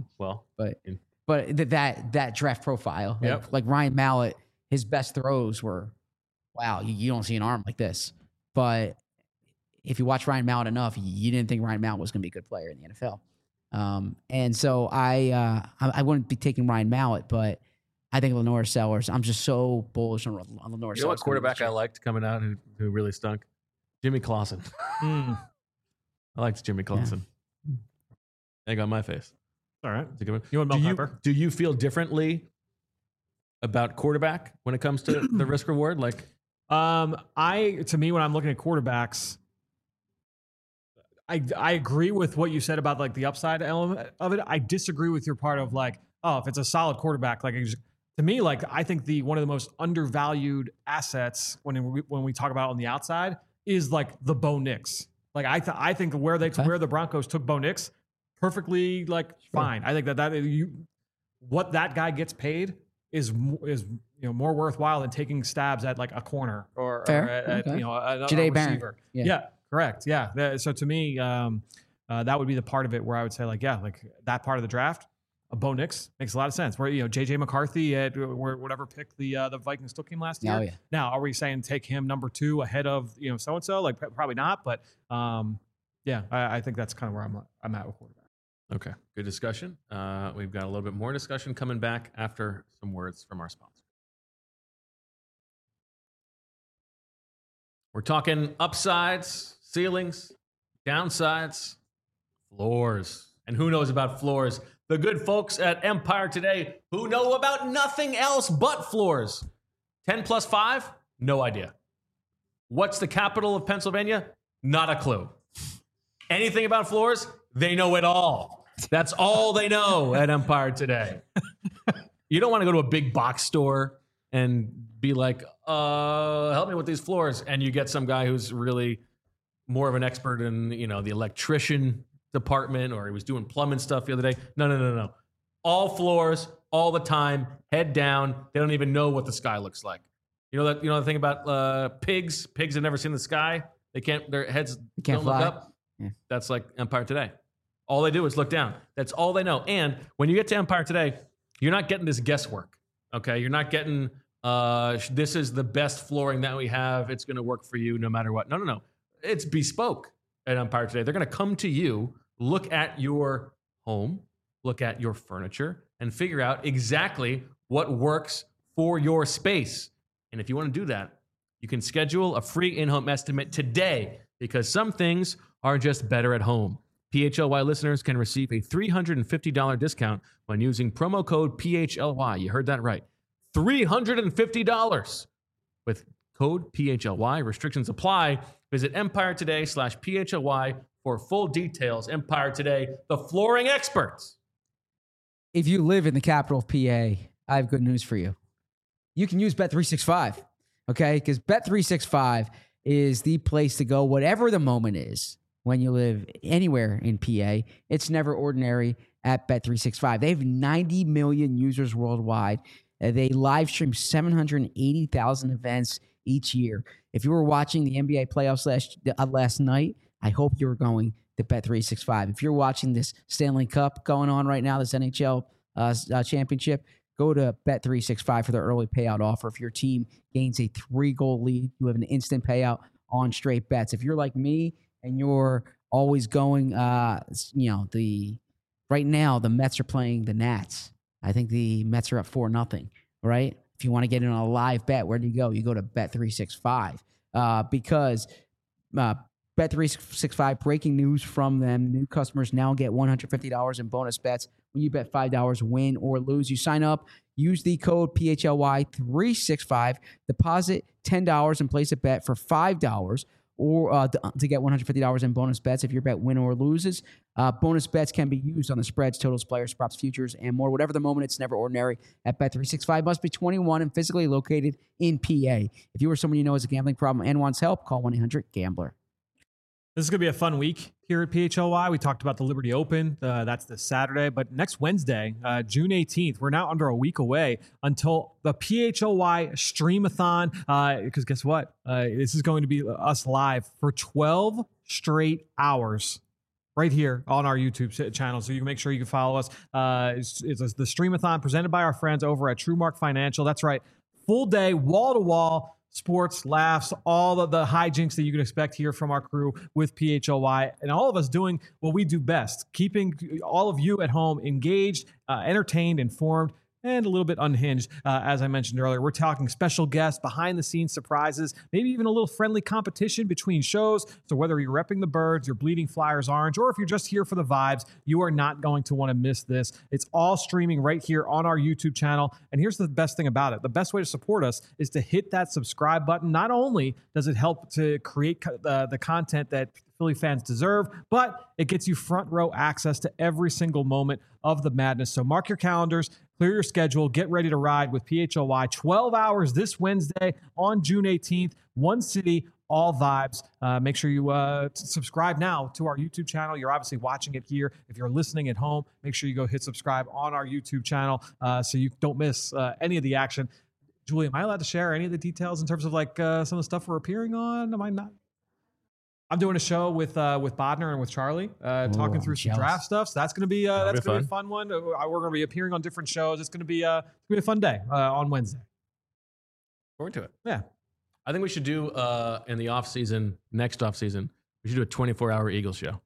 that draft profile, like Ryan Mallett, his best throws were, wow, you don't see an arm like this, but if you watch Ryan Mallett enough, you didn't think Ryan Mallett was going to be a good player in the NFL. And so I wouldn't be taking Ryan Mallett, but I think Lenore Sellers, I'm just so bullish on Lenore Sellers. You know what quarterback I liked coming out who really stunk? Jimmy Clausen. I liked Jimmy Clausen. Egg on my face. All right. That's a good one. You want Mel Kiper? Do you feel differently about quarterback when it comes to the risk reward? Like, to me, when I'm looking at quarterbacks, I agree with what you said about like the upside element of it. I disagree with your part of like, if it's a solid quarterback, like to me, like I think one of the most undervalued assets when we talk about on the outside is like the Bo Nix. Like I think where the Broncos took Bo Nix, perfectly fine. I think that what that guy gets paid is more worthwhile than taking stabs at like a corner or at Jahdae receiver. Yeah. Correct. Yeah. So to me, that would be the part of it where I would say like that part of the draft, Bo Nix makes a lot of sense. Where JJ McCarthy at whatever pick the Vikings took him last year. Oh, yeah. Now, are we saying take him number 2 ahead of so and so? Like probably not. But I think that's kind of where I'm at with quarterback. Okay, good discussion. We've got a little bit more discussion coming back after some words from our sponsor. We're talking upsides, ceilings, downsides, floors. And who knows about floors? The good folks at Empire Today who know about nothing else but floors. 10 plus 5? No idea. What's the capital of Pennsylvania? Not a clue. Anything about floors? They know it all. That's all they know at Empire Today. You don't want to go to a big box store and be like, help me with these floors. And you get some guy who's really more of an expert in, the electrician department, or he was doing plumbing stuff the other day. No. All floors, all the time, head down. They don't even know what the sky looks like. You know the thing about pigs? Pigs have never seen the sky. Their heads can't don't fly. look up. Yeah. That's like Empire Today. All they do is look down. That's all they know. And when you get to Empire Today, you're not getting this guesswork. Okay, you're not getting this is the best flooring that we have. It's going to work for you no matter what. No. It's bespoke at Empire Today. They're going to come to you, look at your home, look at your furniture, and figure out exactly what works for your space. And if you want to do that, you can schedule a free in-home estimate today, because some things are just better at home. PHLY listeners can receive a $350 discount when using promo code PHLY. You heard that right. $350 with code PHLY. Restrictions apply. Visit EmpireToday/PHLY for full details. Empire Today, the flooring experts. If you live in the capital of PA, I have good news for you. You can use Bet365, okay? Because Bet365 is the place to go, whatever the moment is. When you live anywhere in PA, it's never ordinary at Bet365. They have 90 million users worldwide. They live stream 780,000 events each year. If you were watching the NBA playoffs last night, I hope you were going to Bet365. If you're watching this Stanley Cup going on right now, this NHL championship, go to Bet365 for their early payout offer. If your team gains a 3-goal lead, you have an instant payout on straight bets. If you're like me, and you're always going, right now the Mets are playing the Nats. I think the Mets are up 4-0, right? If you want to get in on a live bet, where do you go? You go to Bet365 because Bet365, breaking news from them, new customers now get $150 in bonus bets when you bet $5, win or lose. You sign up, use the code PHLY365, deposit $10 and place a bet for $5, or to get $150 in bonus bets if your bet win or loses. Bonus bets can be used on the spreads, totals, players, props, futures, and more. Whatever the moment, it's never ordinary at Bet365. Must be 21 and physically located in PA. If you or someone you know has a gambling problem and wants help, call 1-800-GAMBLER. This is going to be a fun week here at PHLY. We talked about the Liberty Open. That's this Saturday. But next Wednesday, June 18th, we're now under a week away until the PHLY Streamathon. Because guess what? This is going to be us live for 12 straight hours right here on our YouTube channel. So you can make sure you can follow us. It's the Streamathon presented by our friends over at TrueMark Financial. That's right. Full day, wall-to-wall sports, laughs, all of the hijinks that you can expect here from our crew with PHLY, and all of us doing what we do best, keeping all of you at home engaged, entertained, informed, and a little bit unhinged. As I mentioned earlier, we're talking special guests, behind-the-scenes surprises, maybe even a little friendly competition between shows. So whether you're repping the Birds, you're bleeding Flyers orange, or if you're just here for the vibes, you are not going to want to miss this. It's all streaming right here on our YouTube channel. And here's the best thing about it. The best way to support us is to hit that subscribe button. Not only does it help to create the content that Philly fans deserve, but it gets you front row access to every single moment of the madness. So mark your calendars, clear your schedule, get ready to ride with PHLY. 12 hours this Wednesday on June 18th, one city, all vibes. Make sure you subscribe now to our YouTube channel. You're obviously watching it here. If you're listening at home, make sure you go hit subscribe on our YouTube channel so you don't miss any of the action. Julie, am I allowed to share any of the details in terms of like some of the stuff we're appearing on? Am I not? I'm doing a show with Bodner and with Charlie, talking through some draft stuff. So that's going to be a fun one. We're going to be appearing on different shows. It's going to be a fun day on Wednesday. Forward to it. Yeah, I think we should do in the next off season, we should do a 24-hour Eagles show.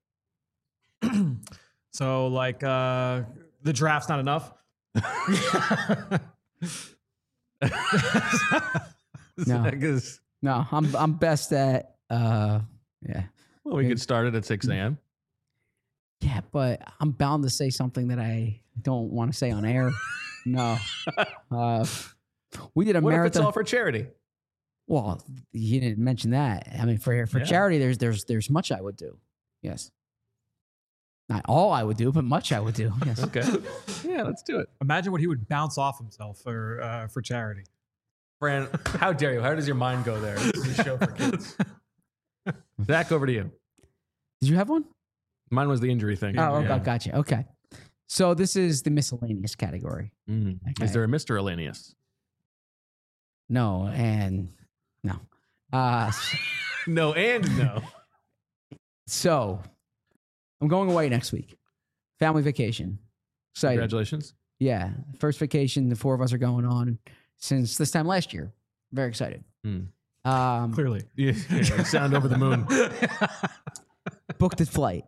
So like the draft's not enough. No, I'm best at. Yeah. Well, we could start it at 6 a.m. Yeah, but I'm bound to say something that I don't want to say on air. No. We did a What marathon. if it's all for charity? Well, you didn't mention that. I mean, for Yeah. charity, there's much I would do. Yes. Not all I would do, but much I would do. Yes. Okay. Yeah, let's do it. Imagine what he would bounce off himself for charity. Fran, how dare you? How does your mind go there? This is a show for kids. Zach, over to you. Did you have one? Mine was the injury thing. Oh, Yeah. gotcha. Okay. So this is the miscellaneous category. Mm. Okay. Is there a Mr. Elanius? No, and no. No and no. So I'm going away next week. Family vacation. Excited. Congratulations. Yeah. First vacation the four of us are going on since this time last year. Very excited. Clearly. Yeah, you sound over the moon. Booked the flight.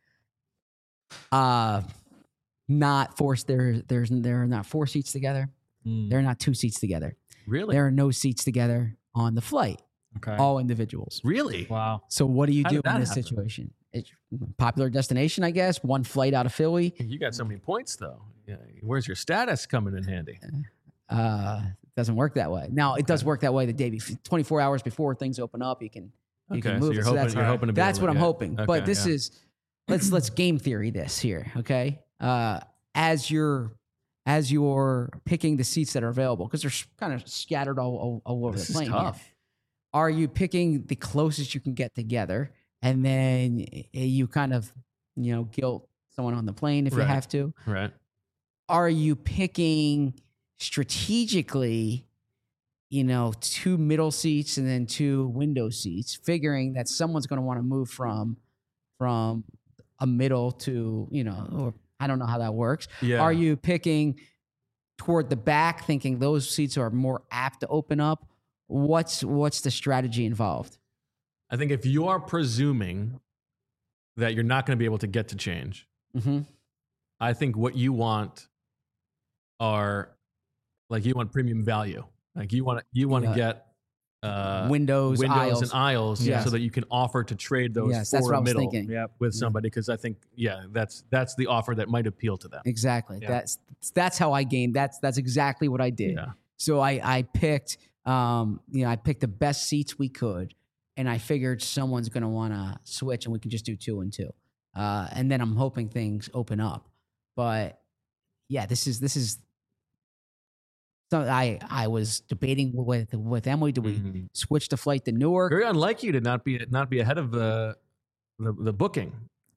Not forced. There are not 4 seats together. There are not 2 seats together. Really? There are no seats together on the flight. Okay. All individuals. Really? Wow. So what do you How do did that in this happen? situation? It's popular destination, I guess. One flight out of Philly. You got so many points, though. Yeah. Where's your status coming in handy? Doesn't work that way. Now it does work that way the day before, 24 hours before things open up. You can Okay, can so move you're it. hoping, that's you're hoping to be that's able what to I'm get- hoping. Okay, But this yeah. is let's game theory this here. Okay, as you're picking the seats that are available because they're kind of scattered all over This the is plane. here. tough. Are you picking the closest you can get together, and then you kind of guilt someone on the plane if you Right. have to? Right. Are you picking strategically, 2 middle seats and then 2 window seats, figuring that someone's going to want to move from a middle to, or I don't know how that works. Yeah. Are you picking toward the back, thinking those seats are more apt to open up? What's the strategy involved? I think if you are presuming that you're not going to be able to get to change, Mm-hmm. I think what you want are like you want premium value. Like you want to Yeah. get Windows, aisles. and aisles Yes. so that you can offer to trade those Yes, for that's what a I was middle thinking. Yep. with somebody because I think that's the offer that might appeal to them. Exactly. Yeah. That's how I gamed. That's exactly what I did. Yeah. So I picked I picked the best seats we could, and I figured someone's going to want to switch, and we can just do 2 and 2. And then I'm hoping things open up. But yeah, this is. So I was debating with Emily. Do we Mhm. switch the flight to Newark? Very unlike you to not be ahead of the booking.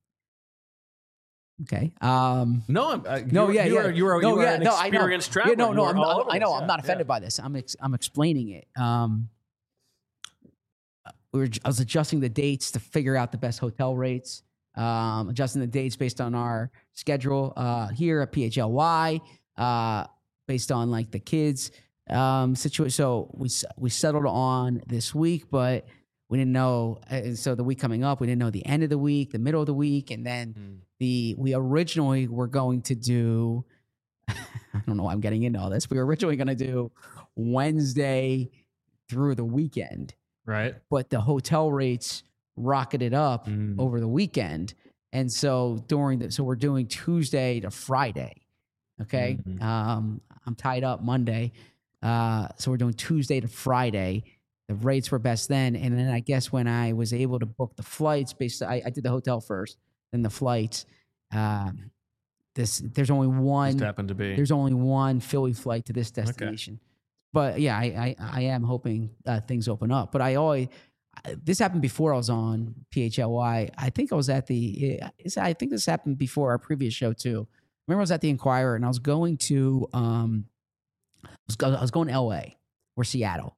Okay. No, No, you yeah, are yeah. an No, yeah, no, I know. experienced traveler. Yeah, no, You are I'm all not, over I know. this. I'm not Yeah, offended yeah. by this. I'm explaining it. I was adjusting the dates to figure out the best hotel rates. Adjusting the dates based on our schedule here at PHLY, based on like the kids situation. So we settled on this week, but we didn't know. So the week coming up, we didn't know the end of the week, the middle of the week, and then we originally were going to do. I don't know why I'm getting into all this. We were originally going to do Wednesday through the weekend, Right. but the hotel rates rocketed up over the weekend. And so so we're doing Tuesday to Friday. Okay. Mhm. I'm tied up Monday. So we're doing Tuesday to Friday. The rates were best then. And then I guess when I was able to book the flights I did the hotel first, then the flights, there's only one, Just happened to be. there's only one Philly flight to this destination. But yeah, I am hoping things open up. But this happened before I was on PHLY. I think I was at I think this happened before our previous show too. Remember I was at the Inquirer and I was going to I was going to LA or Seattle.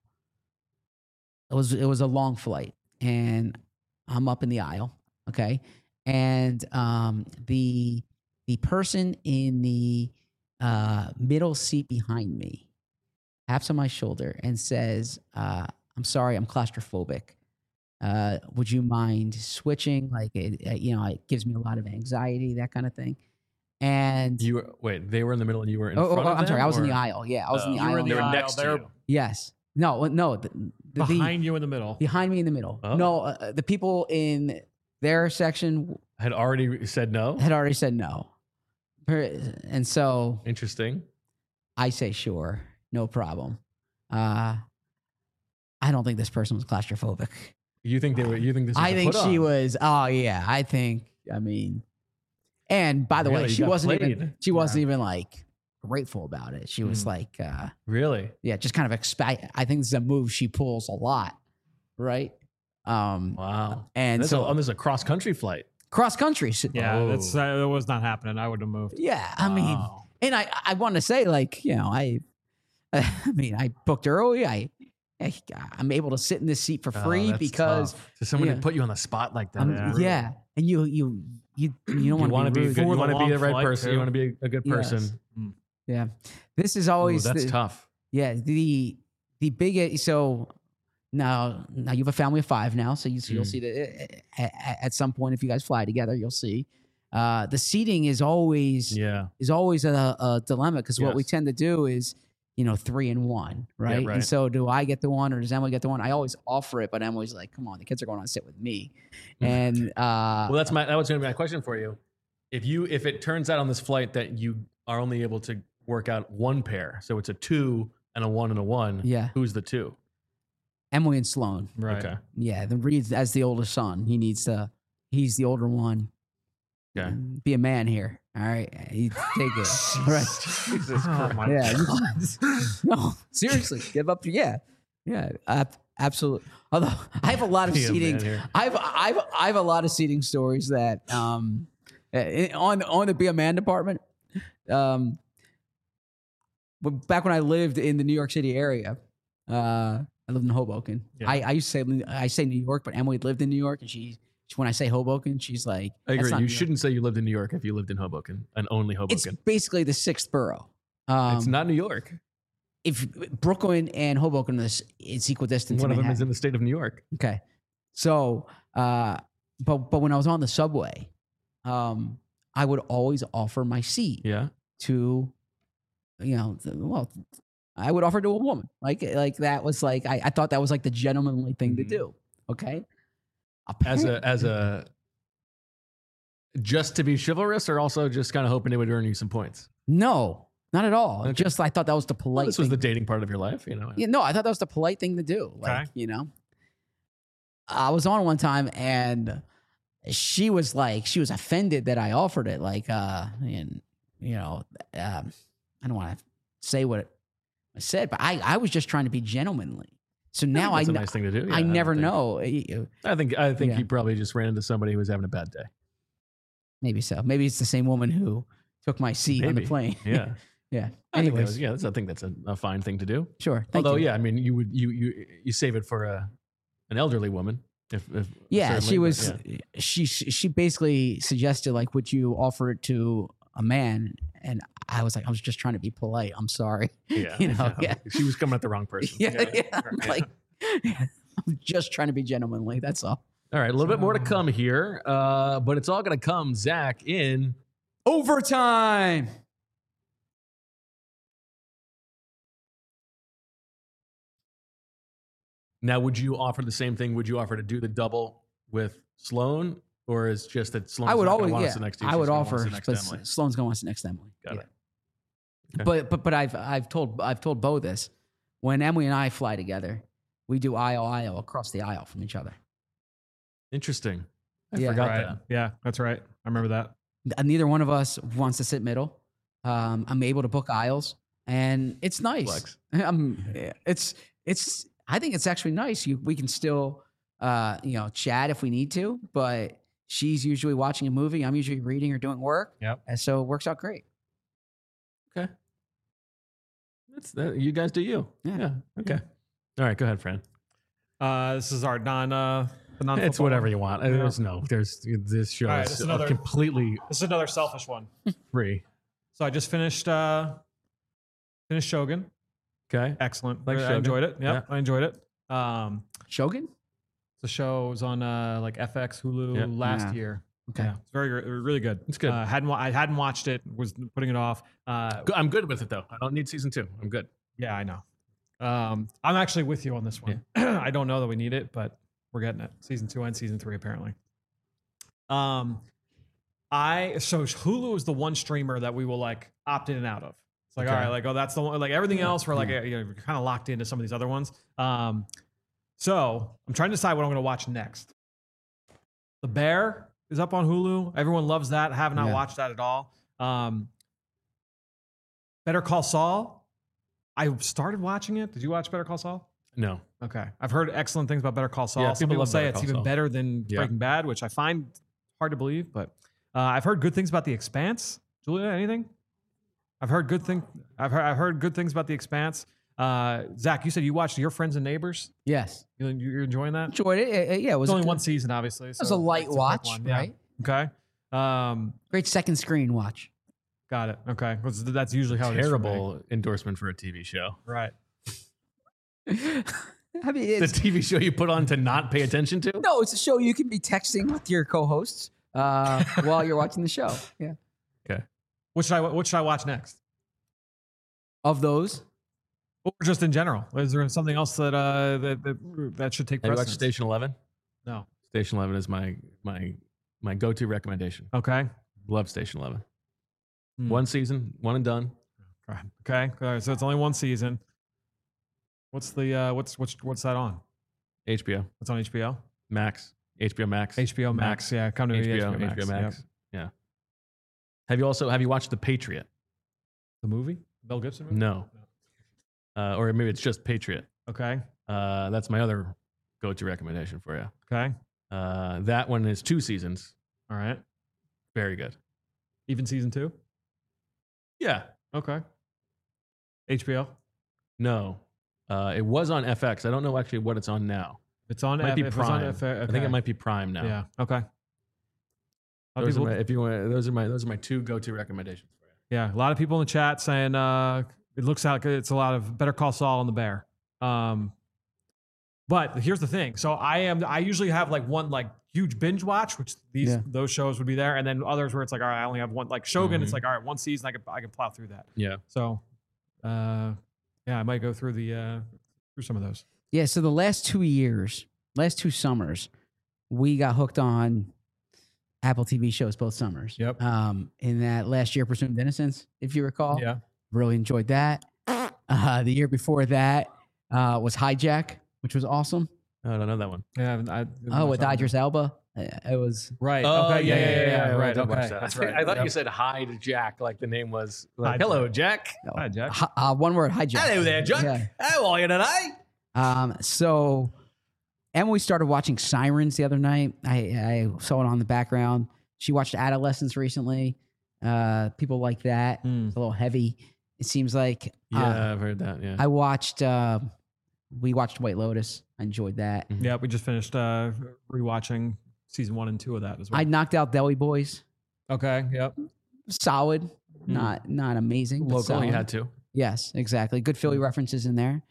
It was a long flight and I'm up in the aisle, okay? And the person in the middle seat behind me taps on my shoulder and says, I'm sorry, I'm claustrophobic. Would you mind switching? Like, it gives me a lot of anxiety, that kind of thing. And They were in the middle and you were in front of them? I'm sorry, I was in the or- aisle. Yeah, I was in the You were aisle. in They the were aisle. next to They're you. Yes. No, the behind you in the middle. behind me in the middle. Oh. No, the people in their section Had already said no? had already said no. And so Interesting. I say, sure, no problem. I don't think this person was claustrophobic. You think they were? You think this? Was I a think put she on? was. Oh yeah, I think. I mean, and by the Really? way, You she got wasn't played. even. She wasn't even like grateful about it. She was like, Really? yeah, just kind of expect. I think this is a move she pulls a lot, right? Wow. And This so is a cross country flight. cross country. Yeah, Oh. that was not happening. I would have moved. Yeah, I mean, Wow. and I want to say like, you know, I mean, I booked early. I'm able to sit in this seat for Oh, free that's because tough. To someone yeah. to put you on the spot like that. yeah, and you don't You want want to be to a rude. good. You For the want to be long the right flight, person. too. You want to be a good Yes. person. Yeah, this is Ooh, always that's tough. Yeah, the biggest. So now you have a family of 5 now, so you'll see that at some point if you guys fly together, you'll see. The seating is always Yeah. a dilemma because what we Yes. tend to do is 3 and 1, right? right. And so do I get the one or does Emily get the one? I always offer it, but Emily's like, "Come on, the kids are going to sit with me," and Well, that was going to be my question for you. If it turns out on this flight that you are only able to work out one pair, so it's a 2 and a 1 and a 1. Yeah. Who's the 2? Emily and Sloan. Right. Okay. Yeah, the Reed's as the oldest son. He's the older one. Okay. Be a man here. All right. You take it. All right. Jesus Oh my Yeah. God. No, seriously. Give up. Yeah. Yeah. Absolutely. Although I have a lot of Be a man seating. here. I have a lot of seating stories that on the Be a Man department. But back when I lived in the New York City area, I lived in Hoboken. Yeah. I used to say New York, but Emily lived in New York, and when I say Hoboken, she's like, I "That's agree. not You New York." shouldn't say you lived in New York if you lived in Hoboken and only It's Hoboken. basically the 6th borough. It's not New York. If Brooklyn and Hoboken it's equidistant. One to of them is Manhattan. in the state of New York. Okay. So, but when I was on the subway, I would always offer my seat Yeah. to, I would offer to a woman. Like that was like, I thought that was like the gentlemanly thing to do. Okay. As a just to be chivalrous, or also just kind of hoping it would earn you some points. No, not at all. Okay. Just, I thought that was the polite Well, this was thing. the dating part of your life, Yeah, no, I thought that was the polite thing to do. Like, Okay. I was on one time and she was offended that I offered it. Like, I don't want to say what I said, but I was just trying to be gentlemanly. So now that's a nice thing to do. Yeah, I never think. know. I think Yeah. you probably just ran into somebody who was having a bad day. Maybe so. Maybe it's the same woman who took my seat on the Maybe. plane. Yeah. Yeah. I think Anyways, I think that's a fine thing to do. sure. Thank Although, you. yeah, I mean, you save it for an elderly woman. If Yeah, certainly, she but was. yeah. She basically suggested like, would you offer it to a man? And I was like, I was just trying to be polite. I'm sorry. Yeah, yeah. She was coming at the wrong person. Yeah, I'm like, I'm just trying to be gentlemanly. That's all. All right, a little bit more to come here, but it's all going to come, Zach, in Overtime. now. Would you offer the same thing? Would you offer to do the double with Sloan, or is just that Sloan? I would always, want yeah. to sit next to you, I she's would gonna want to offer, sit next but to Emily? Sloan's going to want to sit next to Emily. Got Yeah. it. Okay. But I've told Bo this. When Emily and I fly together, we do aisle across the aisle from each other. Interesting. I Yeah. forgot Right. that. Yeah, that's right. I remember that. Neither one of us wants to sit middle. I'm able to book aisles, and it's nice. Flex. It's. I think it's actually nice. We can still, chat if we need to, but she's usually watching a movie. I'm usually reading or doing work. Yep. And so it works out great. Okay. You guys do you. Yeah. Okay. All right. Go ahead, Fran. This is our non. It's whatever you want. Yeah. There's this show All right, is it's another- completely This is another selfish one. free. So I just finished Shogun. Okay. Excellent. Like I Shogun? enjoyed it. Yep, Yeah. I enjoyed it. Shogun? The show was on like FX Hulu Yeah. last Yeah. year. Okay. Yeah, it's really good. It's good. I hadn't watched it. Was putting it off. I'm good with it though. I don't need season 2. I'm good. Yeah, I know. I'm actually with you on this one. I don't know that we need it, but we're getting it. Season 2 and season 3 apparently. So Hulu is the one streamer that we will like opt in and out of. It's like, Okay. all right, like, oh, that's the one. Like everything else, we're like, you're kind of locked into some of these other ones. So I'm trying to decide what I'm going to watch next. The Bear is up on Hulu. Everyone loves that. I have not Yeah. watched that at all. Better Call Saul. I started watching it. Did you watch Better Call Saul? No. Okay. I've heard excellent things about Better Call Saul. Yeah, Some people people love say Better it's Call even Saul. better than Yeah. Breaking Bad, which I find hard to believe. But I've heard good things about The Expanse. Julia, anything? I've heard good things about The Expanse. Zach, you said you watched Your Friends and Neighbors. Yes. You're enjoying that? Enjoyed it. Yeah, it was It's only a, one season, obviously. It was a light watch, right? Okay. Great second screen watch. Got it. Okay. That's usually how it is. for me. Terrible endorsement for a TV show. Right. I mean, The it's, TV show you put on to not pay attention to? no, it's a show you can be texting with your co-hosts while you're watching the show. Yeah. Okay. What should I watch next? Of those, Or just in general? Is there something else that that should take Have you watched precedence? Station 11? No. Station 11 is my go-to recommendation. Okay. Love Station 11. Hmm. One season, one and done. Okay. All right. So it's only one season. What's the what's that on? HBO It's on HBO. Max. HBO Max. HBO Max. Yeah. Come to me. HBO Max. Yep. Yeah. Have you watched The Patriot? The movie? Mel Gibson movie? No. Or maybe it's just Patriot. Okay. That's my other go-to recommendation for you. Okay. That one is 2 seasons. All right. Very good. Even season 2? Yeah. Okay. HBO? No. It was on FX. I don't know actually what it's on now. It's on It might be if it's on Prime. okay. I think it might be Prime now. Yeah. Okay. A lot of Those are people- my, if you want, those are my 2 go-to recommendations for you. Yeah, a lot of people in the chat saying it looks like it's a lot of Better Call Saul and The Bear. But here's the thing. So I usually have like one like huge binge watch, which those shows would be there, and then others where it's like, all right, I only have one. Like Shogun, it's like, all right, one season, I can plow through that. Yeah. So, yeah, I might go through through some of those. yeah. So the last 2 summers, we got hooked on Apple TV shows both summers. Yep. In that last year, Presumed Innocence, if you recall. Yeah. Really enjoyed that. The year before that was Hijack, which was awesome. I don't know that one. Yeah. With Idris Elba. It was Right. Oh, okay. Yeah. Right. I did watch Okay. that. That's right. I thought Yep. you said hi to Jack, like the name was. Like, Hi, hello, Jack. Jack. no, Hi, Jack. one word, Hijack. Hello there, Jack. Yeah. How are you today? So Emily started watching Sirens the other night. I saw it on the background. She watched Adolescence recently. People like that. It's a little heavy. It seems like. Yeah, I've heard that. Yeah. I watched. We watched White Lotus. I enjoyed that. Yeah, we just finished rewatching season 1 and 2 of that as well. I knocked out Deli Boys. Okay. Yep. Solid. Not amazing. But Local, solid. you had to. Yes, exactly. Good Philly references in there.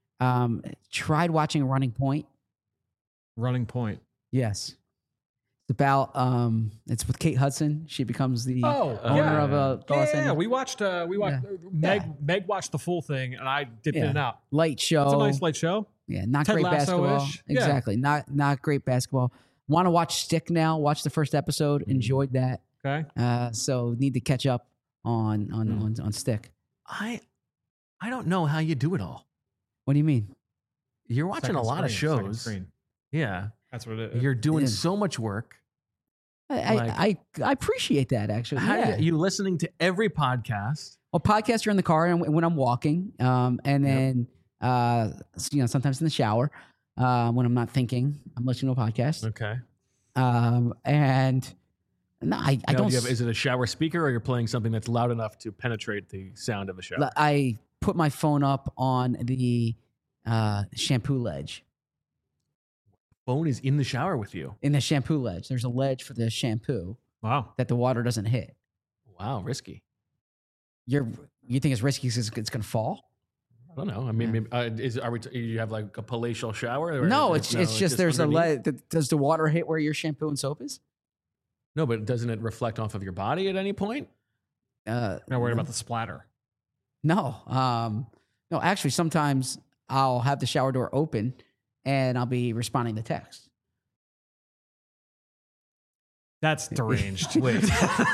Tried watching Running Point. Running Point. Yes. It's about it's with Kate Hudson. She becomes the owner yeah. of a Los Yeah, Angeles we watched Meg watched the full thing, and I dipped in and out. light show. It's a nice light show. Yeah, not Ted great basketball. Lasso-ish. Yeah. Exactly. Not great basketball. Want to watch Stick now. Watch the first episode. Enjoyed that. Okay. So need to catch up on Stick. I don't know how you do it all. What do you mean? You're watching Second a lot of screen, second shows. screen. Yeah. That's what it is. You're doing Yeah. so much work. I appreciate that actually. How Yeah. you listening to every podcast? Well, podcasts are in the car and when I'm walking, and then sometimes in the shower when I'm not thinking, I'm listening to a podcast. Okay. And no, I Now, don't. is it a shower speaker or you're playing something that's loud enough to penetrate the sound of a shower? I put my phone up on the shampoo ledge. Phone is in the shower with you. In the shampoo ledge, there's a ledge for the shampoo Wow. that the water doesn't hit. Wow, risky. You think it's risky because it's going to fall? I don't know. I mean, maybe, you have like a palatial shower? Or No, is it's just there's a underneath? ledge. Does the water hit where your shampoo and soap is? No, but doesn't it reflect off of your body at any point? Not worried about the splatter. No. No, actually, sometimes I'll have the shower door open and I'll be responding to text. That's deranged. Wait.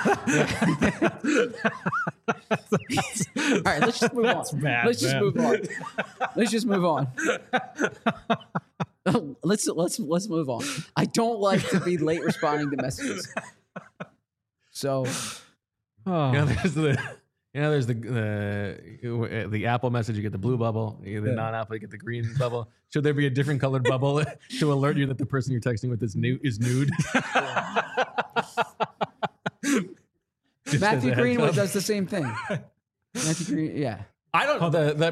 All right, let's just move on. That's bad, Let's just man. move on. Let's just move on. let's move on. I don't like to be late responding to messages. So, Oh. There's the Apple message. You get the blue bubble. You get the non-Apple. You get the green bubble. Should there be a different colored bubble to alert you that the person you're texting with is nude? Just as Matthew a heads Greenwood up. does the same thing. Matthew Green, yeah. I don't.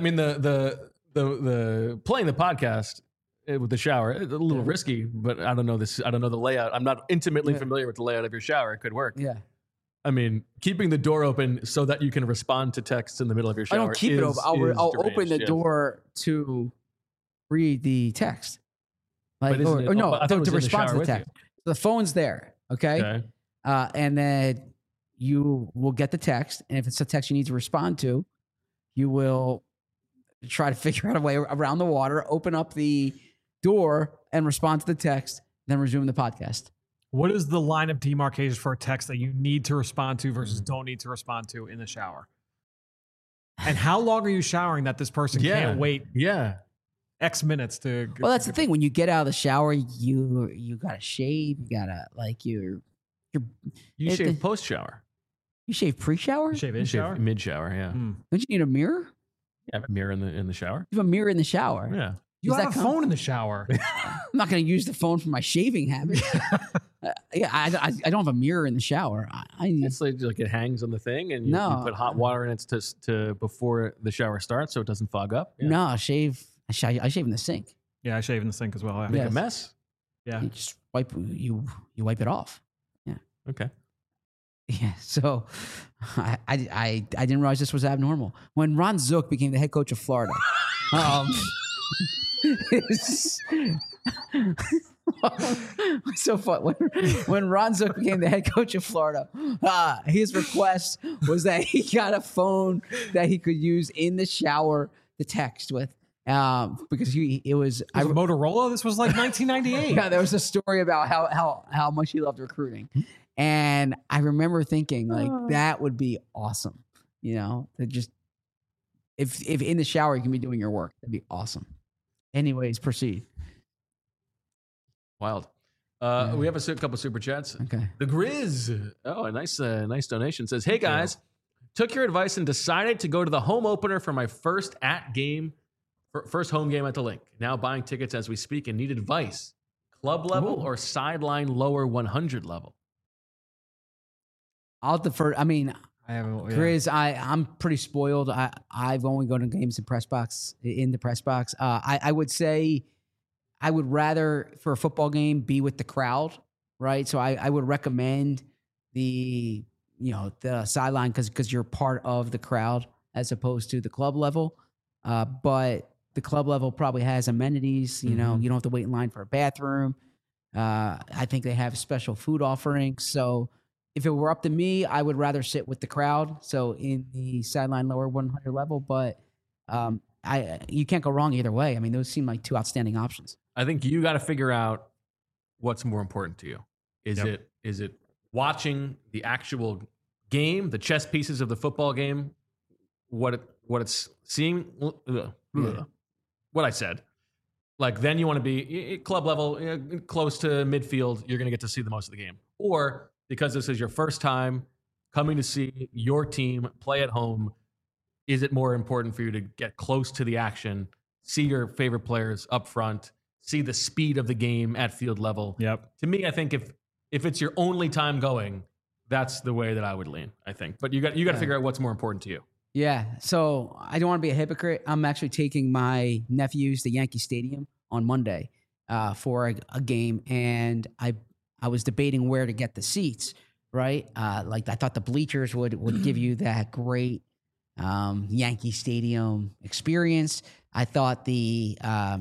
The playing the podcast with the shower, it's a little risky, but I don't know this. I don't know the layout. I'm not intimately familiar with the layout of your shower. It could work. Yeah. I mean, keeping the door open so that you can respond to texts in the middle of your I shower. don't keep it open. I'll open the yes. door to read the text. But Like, isn't it- or no, I thought it was to in the respond shower to the with text. The phone's there, okay? Okay. And then you will get the text, and if it's a text you need to respond to, you will try to figure out a way around the water, open up the door, and respond to the text, then resume the podcast. What is the line of demarcation for a text that you need to respond to versus don't need to respond to in the shower? And how long are you showering that this person can't wait Yeah. X minutes to? Well, that's the thing. When you get out of the shower, you gotta shave. You gotta You It- shave post shower. you shave pre-shower. shave You in shave shower. mid shower. Yeah. Hmm. Don't you need a mirror? You have a mirror in the shower. You have a mirror in the shower. Yeah. You Does have a that count? phone in the shower. I'm not going to use the phone for my shaving habit. I don't have a mirror in the shower. It's like it hangs on the thing, and you put hot water in it to before the shower starts, so it doesn't fog up. Yeah. No, I shave in the sink. Yeah, I shave in the sink as well. Yeah. Make Yes. a mess. Yeah. You just wipe it off. Okay. Yeah. So I didn't realize this was abnormal. When Ron Zook became the head coach of Florida, so fun. When Ron Zook became the head coach of Florida, his request was that he got a phone that he could use in the shower to text with, because it was Motorola. This was like 1998. yeah, there was a story about how much he loved recruiting, and I remember thinking like that would be awesome, to just if in the shower you can be doing your work, that'd be awesome. Anyways, proceed. Wild. We have a couple super chats. Okay. The Grizz. Oh, a nice donation. Says, "Hey guys, took your advice and decided to go to the home opener for my first first home game at the Link. Now buying tickets as we speak and need advice. Club level or sideline lower 100 level?" I'll defer. I mean, Grizz. Grizz, I'm pretty spoiled. I've only gone to games in the press box. I would say I would rather, for a football game, be with the crowd, right? So I would recommend the sideline because you're part of the crowd as opposed to the club level. But the club level probably has amenities. You don't have to wait in line for a bathroom. I think they have special food offerings. So if it were up to me, I would rather sit with the crowd. So in the sideline lower 100 level, but you can't go wrong either way. I mean, those seem like two outstanding options. I think you got to figure out what's more important to you. Is it watching the actual game, the chess pieces of the football game, what it's seeing, what I said. Like, then you want to be club level, close to midfield. You're going to get to see the most of the game. Or because this is your first time coming to see your team play at home, is it more important for you to get close to the action, see your favorite players up front, see the speed of the game at field level? Yep. To me, I think if it's your only time going, that's the way that I would lean, I think. But you got to figure out what's more important to you. Yeah. So I don't want to be a hypocrite. I'm actually taking my nephews to Yankee Stadium on Monday for a game, and I was debating where to get the seats. Right, like I thought the bleachers would give you that great Yankee Stadium experience. I thought the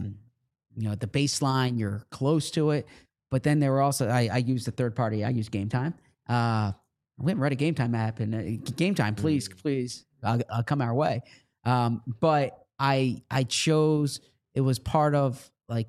baseline, you're close to it, but then there were also I used the third party. I used Game Time. We haven't read a Game Time app, and Game Time, please, come our way. But I chose, it was part of like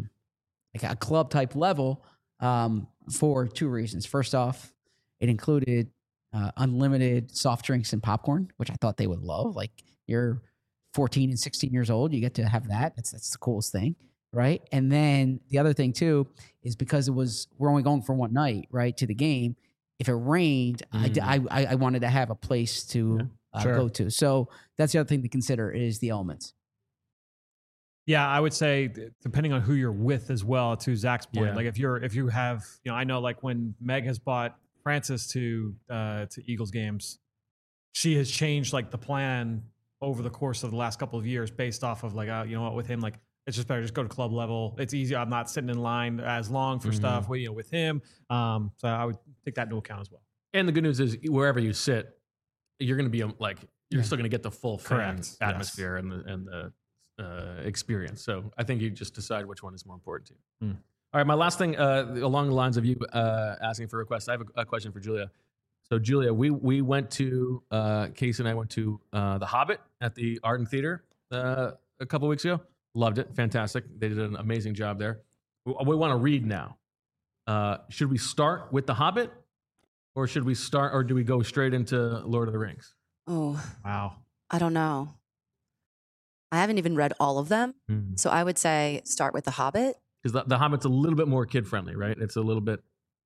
a club type level for two reasons. First off, it included unlimited soft drinks and popcorn, which I thought they would love. Like, you're 14 and 16 years old, you get to have that. That's the coolest thing, right? And then the other thing too is because we're only going for one night, right, to the game. If it rained, I wanted to have a place to go to. So that's the other thing to consider is the elements. Yeah, I would say depending on who you're with as well. To Zach's point, Yeah. like if you have, I know like when Meg has bought Francis to Eagles games, she has changed like the plan over the course of the last couple of years based off of like, you know what, with him, like it's just better just go to club level. It's easier. I'm not sitting in line as long for stuff with him. So I would take that into account as well. And the good news is wherever you sit, you're going to be like you're still going to get the full fan Correct. atmosphere and the experience. So I think you just decide which one is more important to you. All right, my last thing along the lines of you asking for requests, I have a question for Julia. So Julia, we went to Casey and I went to The Hobbit at the Arden Theater a couple weeks ago. Loved it, fantastic. They did an amazing job there. We want to read now. Should we start with The Hobbit, or should we start, or do we go straight into Lord of the Rings? Oh, Wow. I don't know. I haven't even read all of them. So I would say start with The Hobbit. Because the Hobbit's a little bit more kid friendly, right? It's a little bit.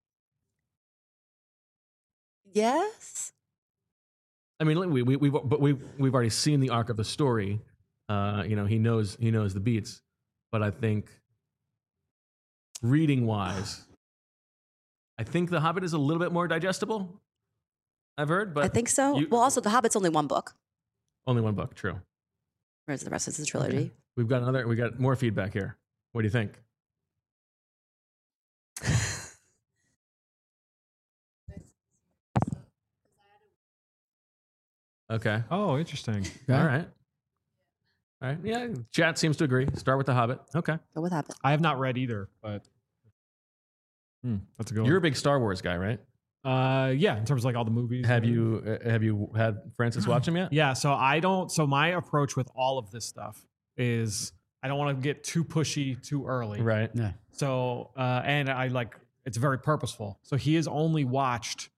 Yes. I mean, we've already seen the arc of the story. He knows the beats, but I think reading wise, I think The Hobbit is a little bit more digestible. I've heard, but I think so. Well, also, The Hobbit's only one book, only one book. True. whereas the rest is the trilogy. Okay. We got more feedback here. What do you think? Okay. Oh, interesting. All right. Yeah. Chat seems to agree. Start with The Hobbit. Okay. Go with Hobbit. I have not read either, but that's a good You're a one. big Star Wars guy, right? Yeah, in terms of like all the movies. Have you had Francis watch them yet? Yeah, so I don't. So my approach with all of this stuff is I don't want to get too pushy too early. Right. Yeah. So and I like it's very purposeful. So he has only watched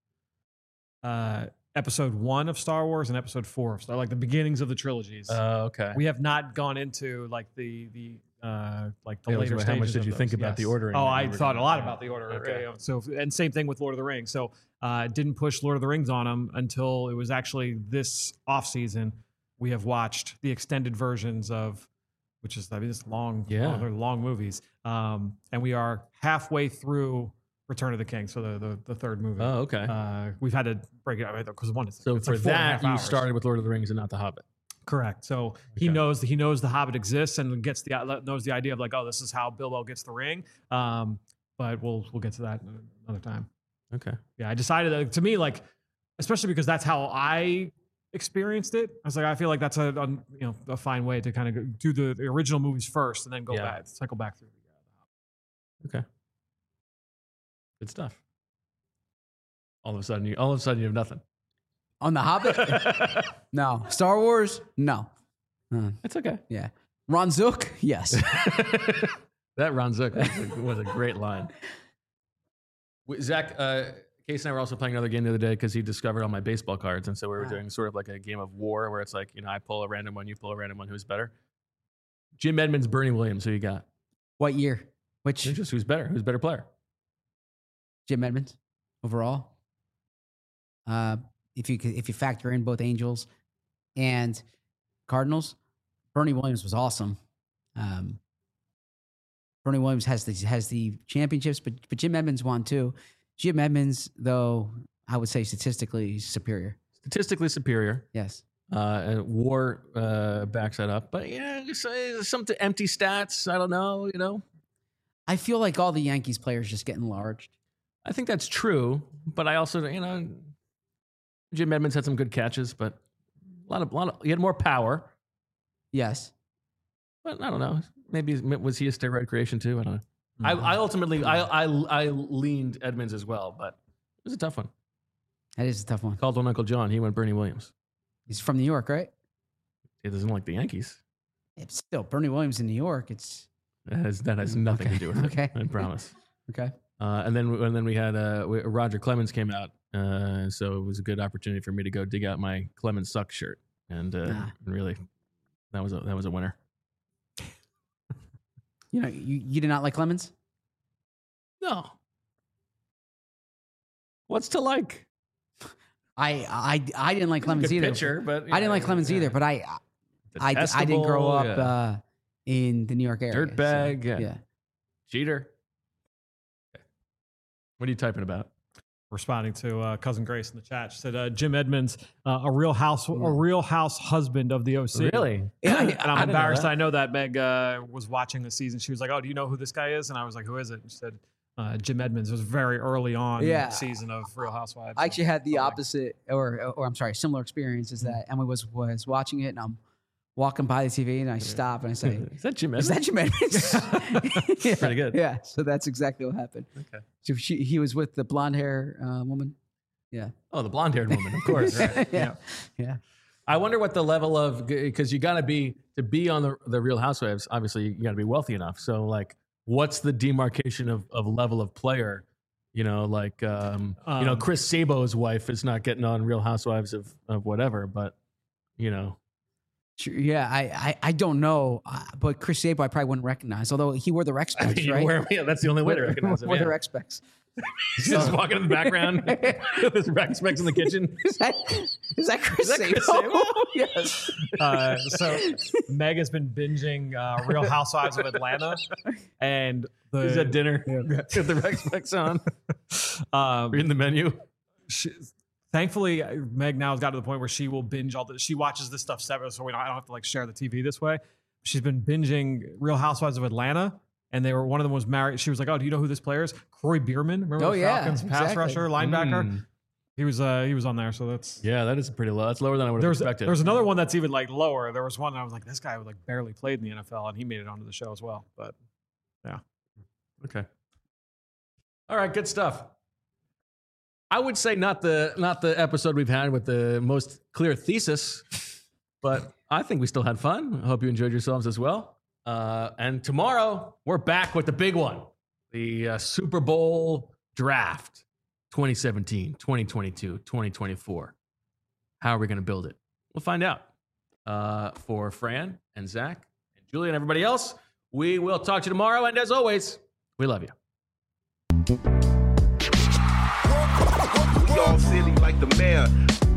episode 1 of Star Wars and episode 4 of Star, like the beginnings of the trilogies. Okay. We have not gone into like the like the Yeah, later how stages. much did of you think those. about the Yes. ordering? Oh, that I you were thought a doing? lot about the order. Okay. So and same thing with Lord of the Rings. So didn't push Lord of the Rings on him until it was actually this off season. We have watched the extended versions of, which is it's long, they're long movies. And we are halfway through Return of the King, so the third movie. Oh, okay. We've had to break it up because one is So it's for like 4.5 that, you hours. started with Lord of the Rings and not The Hobbit. Correct. So he knows the Hobbit exists and knows the idea of like, oh, this is how Bilbo gets the ring. But we'll get to that another time. Okay. Yeah, I decided that to me, like, especially because that's how I experienced it. I was like, I feel like that's a fine way to kind of do the original movies first and then go back, cycle back through. Okay. Good stuff. All of a sudden you have nothing. On The Hobbit? No. Star Wars? No. It's okay. Yeah. Ron Zook? Yes. That Ron Zook was a great line. Zach, Casey and I were also playing another game the other day because he discovered all my baseball cards. And so we were doing sort of like a game of war where it's like, I pull a random one, you pull a random one, who's better? Jim Edmonds, Bernie Williams, who you got? What year? Which? Just who's better? Who's a better player? Jim Edmonds overall. If you factor in both Angels and Cardinals, Bernie Williams was awesome. Bernie Williams has the championships, but Jim Edmonds won too. Jim Edmonds, though, I would say statistically superior. Statistically superior. Yes. And WAR backs that up. But yeah, some empty stats. I don't know. I feel like all the Yankees players just get enlarged. I think that's true, but I also, Jim Edmonds had some good catches, but a lot of he had more power. Yes. But I don't know. Maybe was he a steroid creation too? I don't know. I ultimately I leaned Edmonds as well, but it was a tough one. That is a tough one. Called on Uncle John. He went Bernie Williams. He's from New York, right? He doesn't like the Yankees. It's still Bernie Williams in New York. That has nothing to do with Okay. it. I promise. Okay. And then we had Roger Clemens came out, so it was a good opportunity for me to go dig out my Clemens Sucks shirt, and really, that was a winner. You know, you did not like Clemens? No. What's to like? I didn't like Clemens Good either. pitcher, but I didn't like Clemens either, but I didn't grow up in the New York area. Dirtbag, so, yeah. Cheater. What are you typing about? Responding to cousin Grace in the chat, she said Jim Edmonds, a real house husband of the OC. Really? Yeah, And I'm didn't know embarrassed. that. I know that Meg was watching the season. She was like, "Oh, do you know who this guy is?" And I was like, "Who is it?" And she said, "Jim Edmonds." It was very early on in the season of Real Housewives. I actually had the opposite, or I'm sorry, similar experience. Is that Emily was watching it, and I'm walking by the TV, and I stop and I say, Is that Jim "Is Edmonds? that Jim Edmonds?" Yeah, Pretty good. Yeah, so that's exactly what happened. Okay. So he was with the blonde hair woman. Yeah. Oh, the blonde-haired woman, of course. Right. Yeah. I wonder what the level of, because you got to be on the Real Housewives. Obviously, you got to be wealthy enough. So, like, what's the demarcation of level of player? You know, like, Chris Sabo's wife is not getting on Real Housewives of whatever, but you know. Sure, yeah, I don't know, but Chris Sabo I probably wouldn't recognize, although he wore the rec specs, right? Yeah, that's the only way to recognize him. Wore the Yeah. rec specs. He's just walking in the background with his rec specs in the kitchen. Is that Chris Sabo? Chris Sabo? Yes. So Meg has been binging Real Housewives of Atlanta, and He's at dinner with the rec specs on, reading the menu. Thankfully, Meg now has got to the point where she will binge all this. She watches this stuff separate, so I don't have to like share the TV this way. She's been binging Real Housewives of Atlanta, and one of them was married. She was like, "Oh, do you know who this player is? Corey Bierman. Remember the Falcons pass rusher, linebacker? He was on there. So that's that is pretty low. That's lower than I would have expected. There's another one that's even like lower. There was one that I was like, this guy like barely played in the NFL, and he made it onto the show as well. But yeah, okay. All right, good stuff. I would say not the episode we've had with the most clear thesis, but I think we still had fun. I hope you enjoyed yourselves as well. And tomorrow we're back with the big one, the Super Bowl draft 2017, 2022, 2024. How are we going to build it? We'll find out. For Fran and Zach and Julie and everybody else, we will talk to you tomorrow. And as always, we love you. We all silly like the mayor.